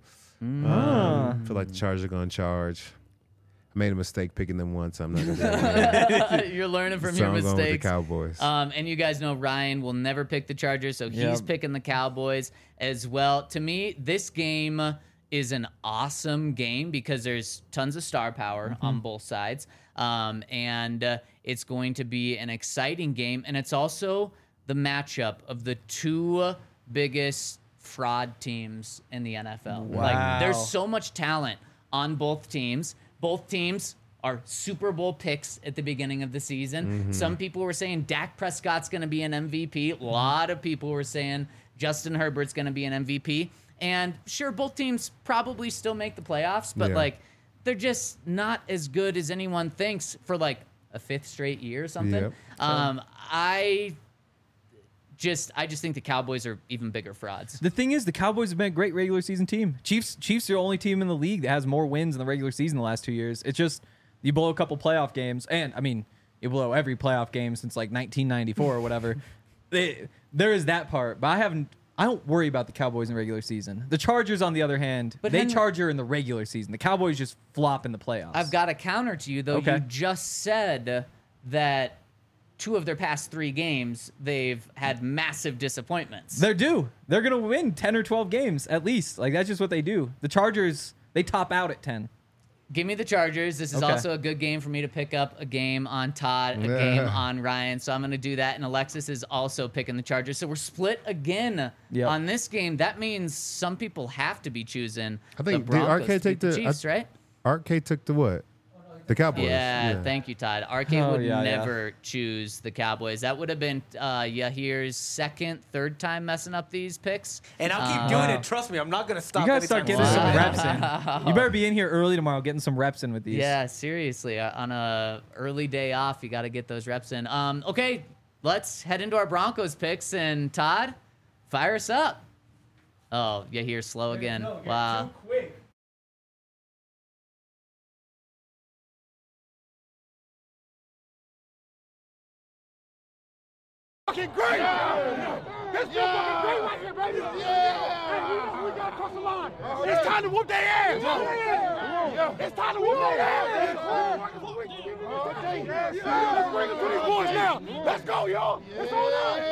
I feel like the Chargers are going to charge. I made a mistake picking them once. I'm not going to do it again. You're learning from So your I'm going with the mistakes. Cowboys. And you guys know Ryan will never pick the Chargers, so he's picking the Cowboys as well. To me, this game is an awesome game because there's tons of star power on both sides. And it's going to be an exciting game. And it's also the matchup of the 2 biggest fraud teams in the NFL. Wow. Like, there's so much talent on both teams. Both teams are Super Bowl picks at the beginning of the season. Some people were saying Dak Prescott's going to be an MVP. A lot of people were saying Justin Herbert's going to be an MVP. And sure, both teams probably still make the playoffs, but like they're just not as good as anyone thinks for like a 5th straight year or something. Yep. I just think the Cowboys are even bigger frauds. The thing is, the Cowboys have been a great regular season team. Chiefs are the only team in the league that has more wins in the regular season the last 2 years. It's just you blow a couple playoff games, and I mean, you blow every playoff game since like 1994 or whatever. There is that part, but I don't worry about the Cowboys in regular season. The Chargers, on the other hand, they charge her in the regular season. The Cowboys just flop in the playoffs. I've got a counter to you, though. Okay. You just said that 2 of their past 3 games, they've had massive disappointments. They're due. They're going to win 10 or 12 games at least. Like, that's just what they do. The Chargers, they top out at 10. Give me the Chargers. This is Okay. also a good game for me to pick up a game on Todd, a game on Ryan. So I'm going to do that. And Alexis is also picking the Chargers. So we're split again on this game. That means some people have to be choosing I think the did Broncos Arcade to take beat the the Chiefs, right? Arcade took the what? The Cowboys. Yeah, thank you, Todd. Arcade would yeah. never choose the Cowboys. That would have been Yahir's second, third time messing up these picks. And I'll keep doing it. Trust me, I'm not gonna stop. You gotta start anytime getting soon. some reps in. You better be in here early tomorrow, getting some reps in with these. Yeah, seriously. On a early day off, you got to get those reps in. Okay, let's head into our Broncos picks. And Todd, fire us up. Oh, Yahir's slow again. Wow. Too quick. Fucking great! That's still fucking great right here, baby! Yeah! We gotta cross the line! It's time to whoop their ass! Yeah. It's time to whoop their ass! Let's bring it to these boys now! Let's go, y'all! It's on us!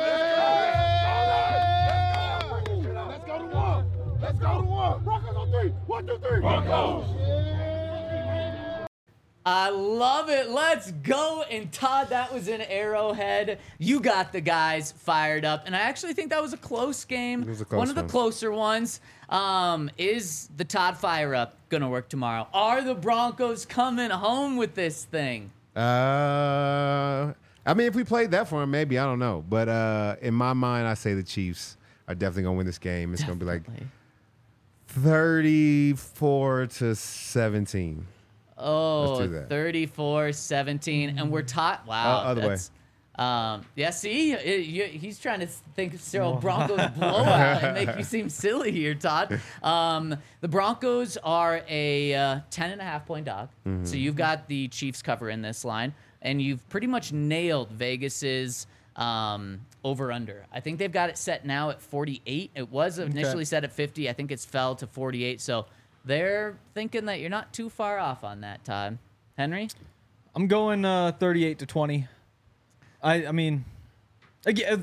Let's go to one! Let's go to one! Broncos on three! 1, 2, 3! Broncos! I love it. Let's go. And Todd, that was in Arrowhead. You got the guys fired up. And I actually think that was a close game. It was a close one of the one. closer ones. Is the Todd fire up going to work tomorrow? Are the Broncos coming home with this thing? I mean, if we played that for him, maybe. I don't know. But in my mind, I say the Chiefs are definitely going to win this game. It's going to be like 34-17. Oh, Let's do that. 34-17. And we're taught. Wow. Other way. Yeah, see? He's trying to think of Cyril Broncos blowout and make you seem silly here, Todd. The Broncos are a 10.5-point dog. Mm-hmm. So you've got the Chiefs cover in this line. And you've pretty much nailed Vegas's over-under. I think they've got it set now at 48. It was initially set at 50. I think it's fell to 48. So they're thinking that you're not too far off on that, Todd. Henry? I'm going 38-20. I mean, again,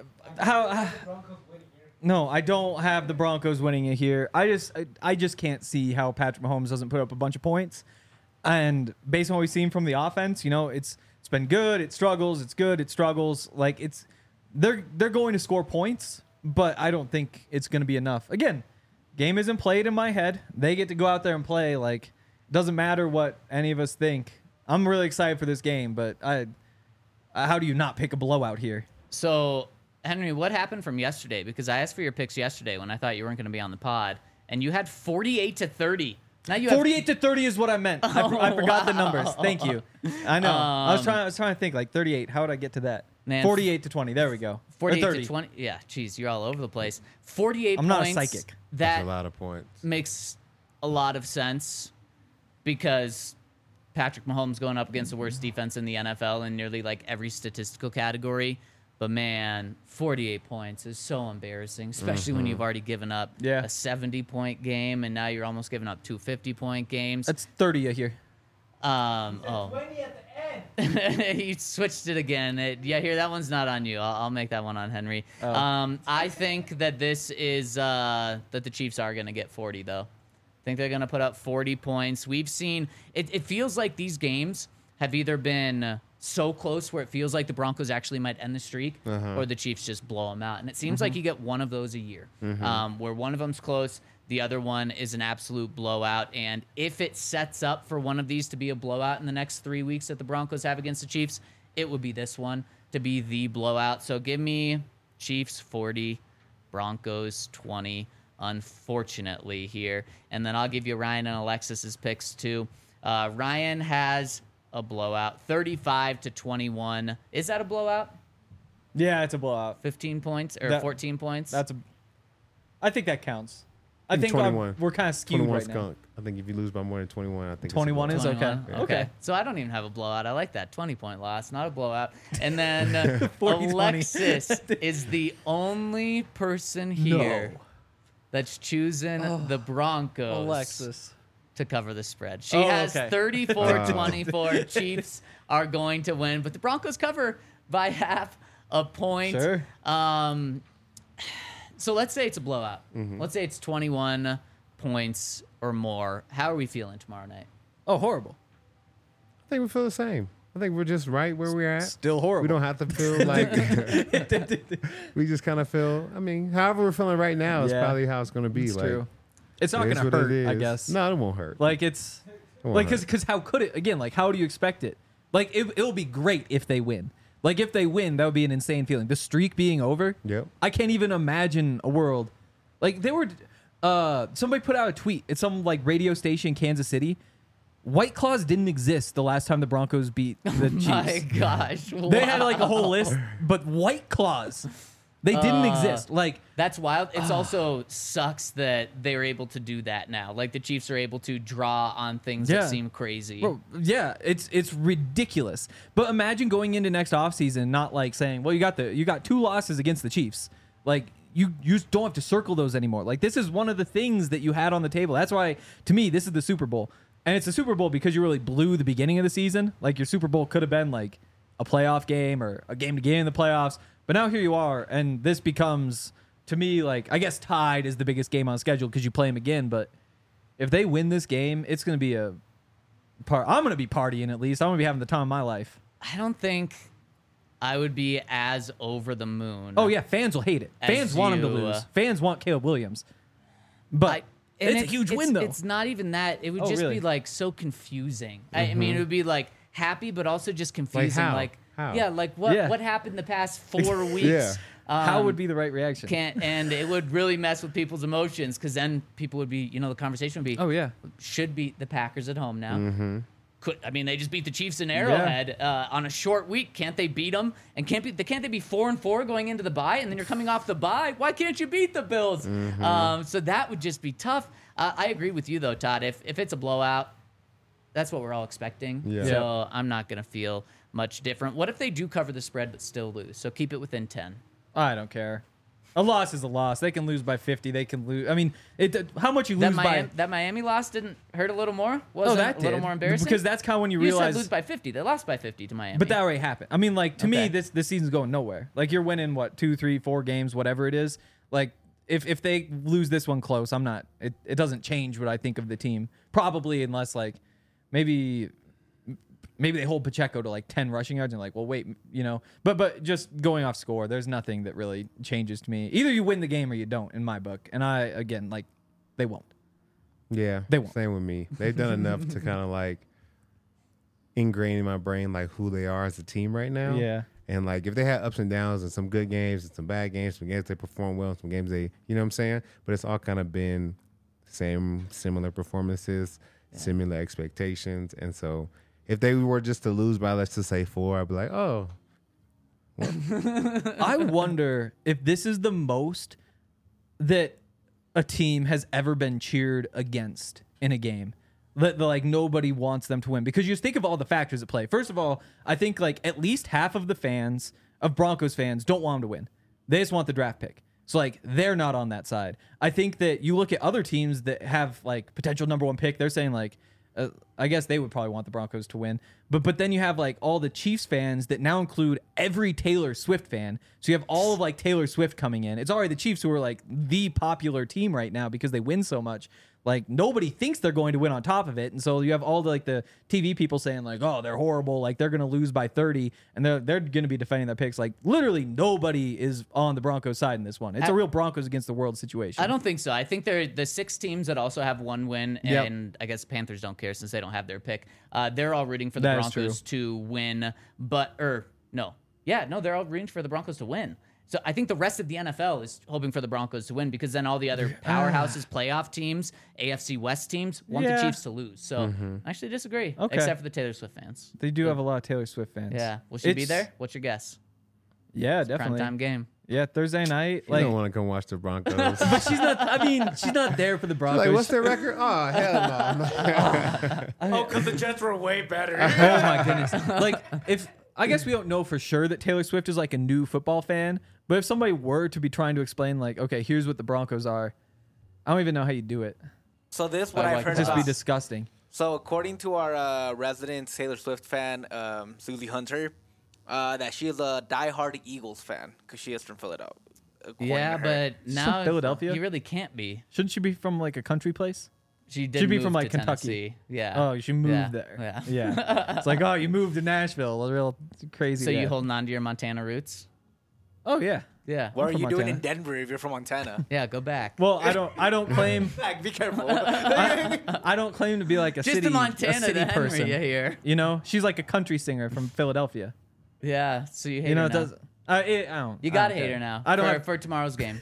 no, I don't have the Broncos winning it here. I just can't see how Patrick Mahomes doesn't put up a bunch of points. And based on what we've seen from the offense, you know, it's been good. It struggles. It's good. It struggles. Like they're going to score points, but I don't think it's going to be enough. Again, game isn't played in my head. They get to go out there and play. Like, it doesn't matter what any of us think. I'm really excited for this game, but how do you not pick a blowout here? So, Henry, what happened from yesterday? Because I asked for your picks yesterday when I thought you weren't going to be on the pod, and you had 48-30. Now you have 48-30 is what I meant. I forgot the numbers. Thank you. I know. I was trying to think like 38. How would I get to that? Man, 48-20. There we go. 48-20. Yeah, geez, you're all over the place. 48 I'm points. not a psychic. That That's a lot of points. makes a lot of sense because Patrick Mahomes going up against the worst defense in the NFL in nearly like every statistical category. But man, 48 points is so embarrassing, especially when you've already given up a 70-point game and now you're almost giving up 2 50-point games. That's 30 here. 20 at the end. He switched it again. Here, that one's not on you. I'll make that one on Henry. I think that this is that the Chiefs are going to get 40, though. I think they're going to put up 40 points. We've seen it feels like these games have either been so close where it feels like the Broncos actually might end the streak or the Chiefs just blow them out. And it seems like you get one of those a year where one of them's close, the other one is an absolute blowout. And if it sets up for one of these to be a blowout in the next 3 weeks that the Broncos have against the Chiefs, it would be this one to be the blowout. So give me Chiefs 40, Broncos 20, unfortunately here. And then I'll give you Ryan and Alexis's picks too. Ryan has a blowout, 35-21. Is that a blowout? Yeah, it's a blowout. 15 points or 14 points? I think that counts. I think 21. we're kind of skewed 21 right now. skunk. I think if you lose by more than 21, I think 21 it's is a okay. 21? Okay. So I don't even have a blowout. I like that 20-point loss, not a blowout. And then 40-20. Alexis is the only person here that's choosing the Broncos. Alexis. To cover the spread. She has 34-24. Chiefs are going to win, but the Broncos cover by half a point. Sure. So let's say it's a blowout. Let's say it's 21 points or more. How are we feeling tomorrow night? Oh, horrible. I think we feel the same. I think we're just right where we're at. Still horrible. We don't have to feel like we just kind of feel. I mean, however we're feeling right now is probably how it's going to be. It's like, true. It's not it going is to what it hurt, I is. guess. No, it won't hurt. Like it's Like, because how could it? Again, like, how do you expect it? Like, it'll be great if they win. Like, if they win, that would be an insane feeling. The streak being over. Yep. I can't even imagine a world. Like, they were. Somebody put out a tweet. It's some like radio station in Kansas City. White Claws didn't exist the last time the Broncos beat the Chiefs. My gosh. They had like a whole list, but White Claws, they didn't exist. Like, that's wild. It's also sucks that they were able to do that now. Like the Chiefs are able to draw on things that seem crazy. bro, yeah, it's ridiculous. But imagine going into next offseason not like saying, well, you got 2 losses against the Chiefs. Like, you just don't have to circle those anymore. Like, this is one of the things that you had on the table. That's why, to me, this is the Super Bowl. And it's a Super Bowl because you really blew the beginning of the season. Like, your Super Bowl could have been like a playoff game or a game to game in the playoffs. But now here you are, and this becomes, to me, like, I guess tied is the biggest game on schedule because you play them again. But if they win this game, it's going to be I'm going to be partying at least. I'm going to be having the time of my life. I don't think I would be as over the moon. Oh, yeah, fans will hate it. Fans want him to lose. Fans want Caleb Williams. But it's a huge win, though. It's not even that. It would just be, like, so confusing. I mean, it would be, like, happy, but also just confusing. How? Yeah, like, what happened the past 4 weeks? Yeah. How would be the right reaction? And it would really mess with people's emotions because then people would be, the conversation would be, oh, yeah. Should beat the Packers at home now. Mm-hmm. They just beat the Chiefs in Arrowhead on a short week. Can't they beat them? And can't they be 4-4 going into the bye? And then you're coming off the bye. Why can't you beat the Bills? Mm-hmm. So that would just be tough. I agree with you though, Todd. If it's a blowout, that's what we're all expecting. Yeah. So I'm not gonna feel much different. What if they do cover the spread but still lose? So keep it within 10. I don't care. A loss is a loss. They can lose by 50. They can lose. I mean, how much you lose by... That Miami loss didn't hurt a little more? Wasn't that a little more embarrassing? Because that's kind of when you You realize... said lose by 50. They lost by 50 to Miami. But that already happened. I mean, like, to me, this season's going nowhere. Like, you're winning, 2, 3, 4 games, whatever it is. Like, if they lose this one close, I'm not... It doesn't change what I think of the team. Probably, unless, like, maybe they hold Pacheco to, like, 10 rushing yards and, like, well, wait, But just going off score, there's nothing that really changes to me. Either you win the game or you don't, in my book. And again, they won't. Yeah, they won't. Same with me. They've done enough to kind of, like, ingrain in my brain, like, who they are as a team right now. Yeah. And, like, if they had ups and downs and some good games and some bad games, some games they perform well, some games they, you know what I'm saying? But it's all kind of been similar performances, similar expectations. And so if they were just to lose by, let's just say 4, I'd be like, oh. I wonder if this is the most that a team has ever been cheered against in a game. Like, nobody wants them to win. Because you just think of all the factors at play. First of all, I think, like, at least half of the fans, of Broncos fans, don't want them to win. They just want the draft pick. So, like, they're not on that side. I think that you look at other teams that have, like, potential number 1 pick, they're saying, like, I guess they would probably want the Broncos to win. But then you have, like, all the Chiefs fans that now include every Taylor Swift fan. So you have all of, like, Taylor Swift coming in. It's already the Chiefs who are, like, the popular team right now because they win so much. Like, nobody thinks they're going to win on top of it. And so you have all the, like, the TV people saying, like, oh, they're horrible. Like, they're going to lose by 30. And they're going to be defending their picks. Like, literally nobody is on the Broncos side in this one. It's a real Broncos against the world situation. I don't think so. I think they're the 6 teams that also have 1 win. And I guess Panthers don't care since they don't have their pick. They're all rooting for the Broncos to win. They're all rooting for the Broncos to win. So I think the rest of the NFL is hoping for the Broncos to win because then all the other powerhouses, playoff teams, AFC West teams want the Chiefs to lose. So I actually disagree, except for the Taylor Swift fans. They do have a lot of Taylor Swift fans. Yeah. Will she be there? What's your guess? Yeah, it's definitely. Primetime game. Yeah, Thursday night. I don't want to come watch the Broncos. But she's not. I mean, she's not there for the Broncos. Like, what's their record? Oh, hell no. Because the Jets were way better. Oh my goodness! Like, I guess we don't know for sure that Taylor Swift is like a new football fan. But if somebody were to be trying to explain, like, okay, here's what the Broncos are, I don't even know how you do it. So this what I've heard just about. Be disgusting. So according to our resident Taylor Swift fan, Susie Hunter, that she is a diehard Eagles fan because she is from Philadelphia. Yeah, but now Philadelphia, you really can't be. Shouldn't she be from like a country place? She did. She'd be from to like Kentucky. Tennessee. Yeah. Oh, she moved there. Yeah. It's like, oh, you moved to Nashville. A real crazy. So you holding on to your Montana roots? Oh yeah. Yeah. What are from you doing in Montana. Denver if you're from Montana? Yeah, go back. Well, I don't claim Like, be careful. I don't claim to be like a Just city, to Montana, a city to Henry, person. you hear? You know, she's like a country singer from Philadelphia. Yeah, so you hate You know, her it now. does. I don't. You I gotta don't hate care. her now. I don't. for, have, for tomorrow's game.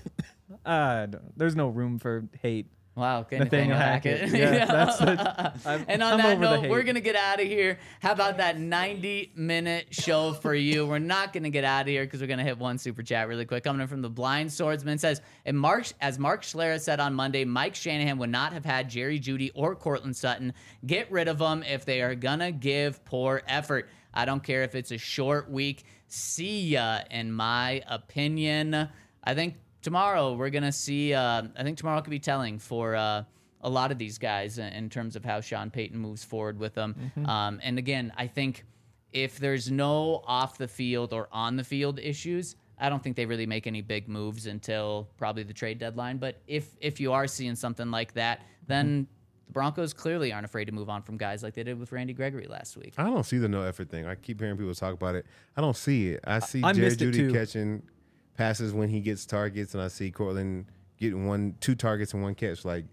there's no room for hate. Wow, okay, Nathaniel Hackett. Yeah, that's it. And on I'm that over the note, hate. we're going to get out of here. How about that 90-minute show for you? We're not going to get out of here because we're going to hit one super chat really quick. Coming in from the Blind Swordsman says, as Mark Schlereth said on Monday, Mike Shanahan would not have had Jerry Jeudy or Cortland Sutton. Get rid of them if they are going to give poor effort. I don't care if it's a short week. See ya, in my opinion. I think tomorrow we're going to see, I think tomorrow could be telling for a lot of these guys in terms of how Sean Payton moves forward with them. And again, I think if there's no off the field or on the field issues, I don't think they really make any big moves until probably the trade deadline. But if you are seeing something like that, then the Broncos clearly aren't afraid to move on from guys like they did with Randy Gregory last week. I don't see the no effort thing. I keep hearing people talk about it. I don't see it. I see I Jerry missed it Jeudy too. catching passes when he gets targets, and I see Cortland getting 2 targets and 1 catch. Like,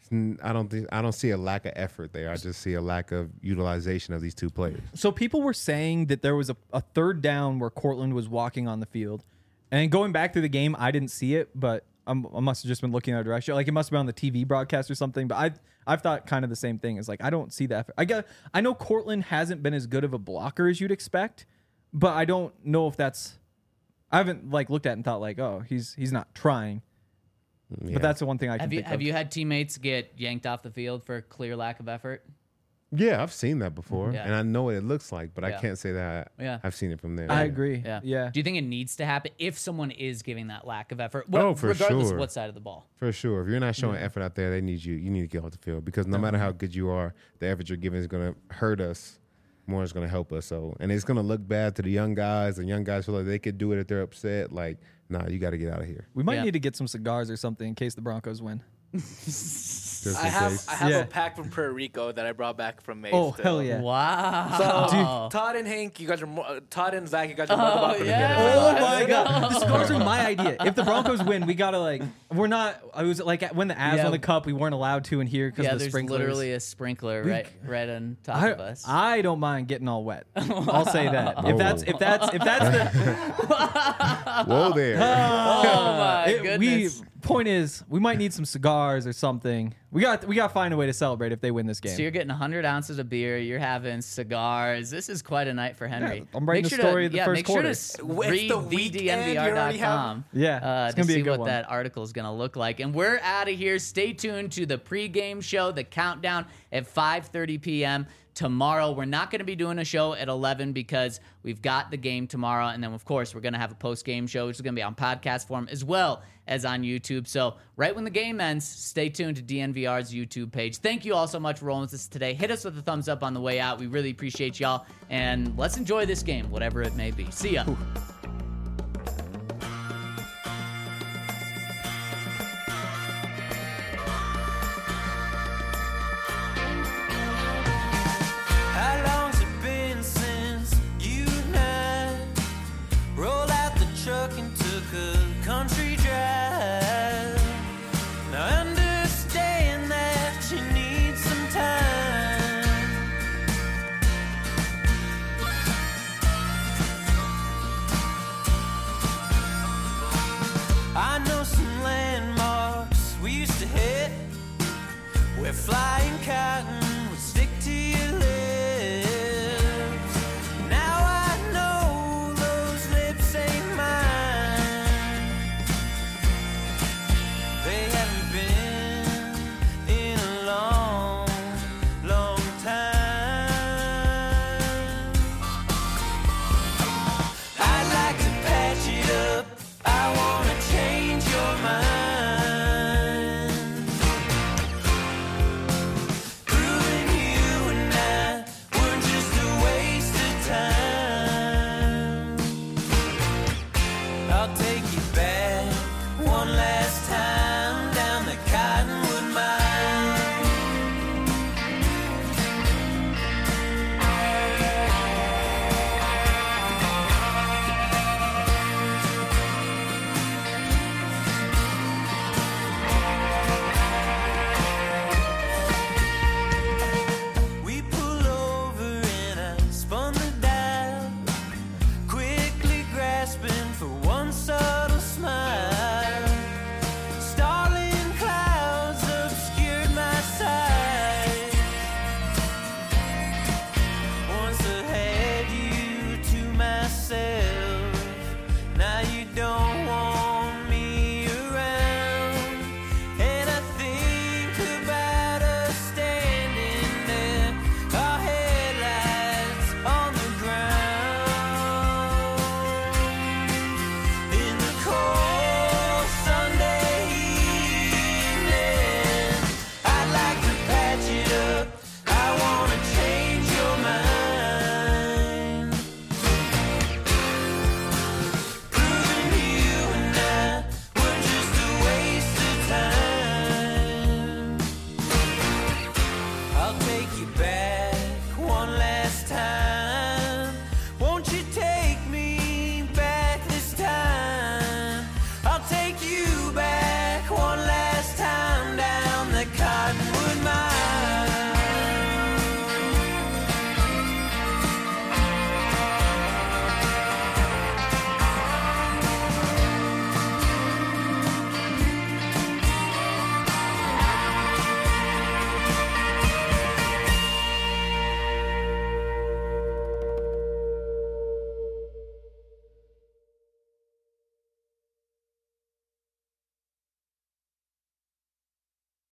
I don't see a lack of effort there. I just see a lack of utilization of these 2 players. So people were saying that there was a third down where Cortland was walking on the field, and going back through the game, I didn't see it, but I must have just been looking in a direction. Like it must have been on the TV broadcast or something. But I've thought kind of the same thing. Is like I don't see that. I know Cortland hasn't been as good of a blocker as you'd expect, but I don't know if that's. I haven't like looked at it and thought like, oh, he's not trying. Yeah. But that's the one thing I can think Have of. you had teammates get yanked off the field for clear lack of effort? Yeah, I've seen that before, Yeah. and I know what it looks like, but I Yeah. can't say that Yeah. I've seen it from there. I agree. Yeah. Do you think it needs to happen if someone is giving that lack of effort? Oh, for regardless sure. of what side of the ball. For sure. If you're not showing effort out there, they need you. You need to get off the field because no matter how good you are, the effort you're giving is going to hurt us more. It's going to help us. So, and it's going to look bad to the young guys. And young guys feel like they could do it if they're upset. Like, nah, you got to get out of here. We might Yeah. need to get some cigars or something in case the Broncos win. Just I in have case. a Yeah. pack from Puerto Rico that I brought back from Maine. Oh, still. hell yeah. Wow. So Todd and Hank, you guys are Todd and Zach, you guys are more than welcome yeah. to get Oh it. my god, the cigars are my idea. If the Broncos win, we gotta like. We're not. I was like when the Avs Yeah. won the cup, we weren't allowed to in here because Yeah, of the there's sprinklers. literally a sprinkler right on top of us. I don't mind getting all wet. I'll say that. Oh. If that's the Whoa there. oh my we goodness. point is we might need some cigars or something. We got to find a way to celebrate if they win this game. So you're getting 100 ounces of beer. You're having cigars. This is quite a night for Henry. Yeah, I'm writing Make the sure story of the first make quarter. Sure to read the weekend, you already thednvr.com. Yeah, it's to gonna be a see good what one. that article is going to look like. And we're out of here. Stay tuned to the pregame show, the countdown at 5:30 p.m. tomorrow. We're not going to be doing a show at 11 because we've got the game tomorrow. And then, of course, we're going to have a post-game show, which is going to be on podcast form as well as on YouTube. So right when the game ends, stay tuned to DNVR's YouTube page. Thank you all so much for rolling with us today. Hit us with a thumbs up on the way out. We really appreciate y'all. And let's enjoy this game, whatever it may be. See ya. How long's it been since you and I rolled out the truck and took a country drive? Now understand that you need some time. I know some landmarks we used to hit where flying cotton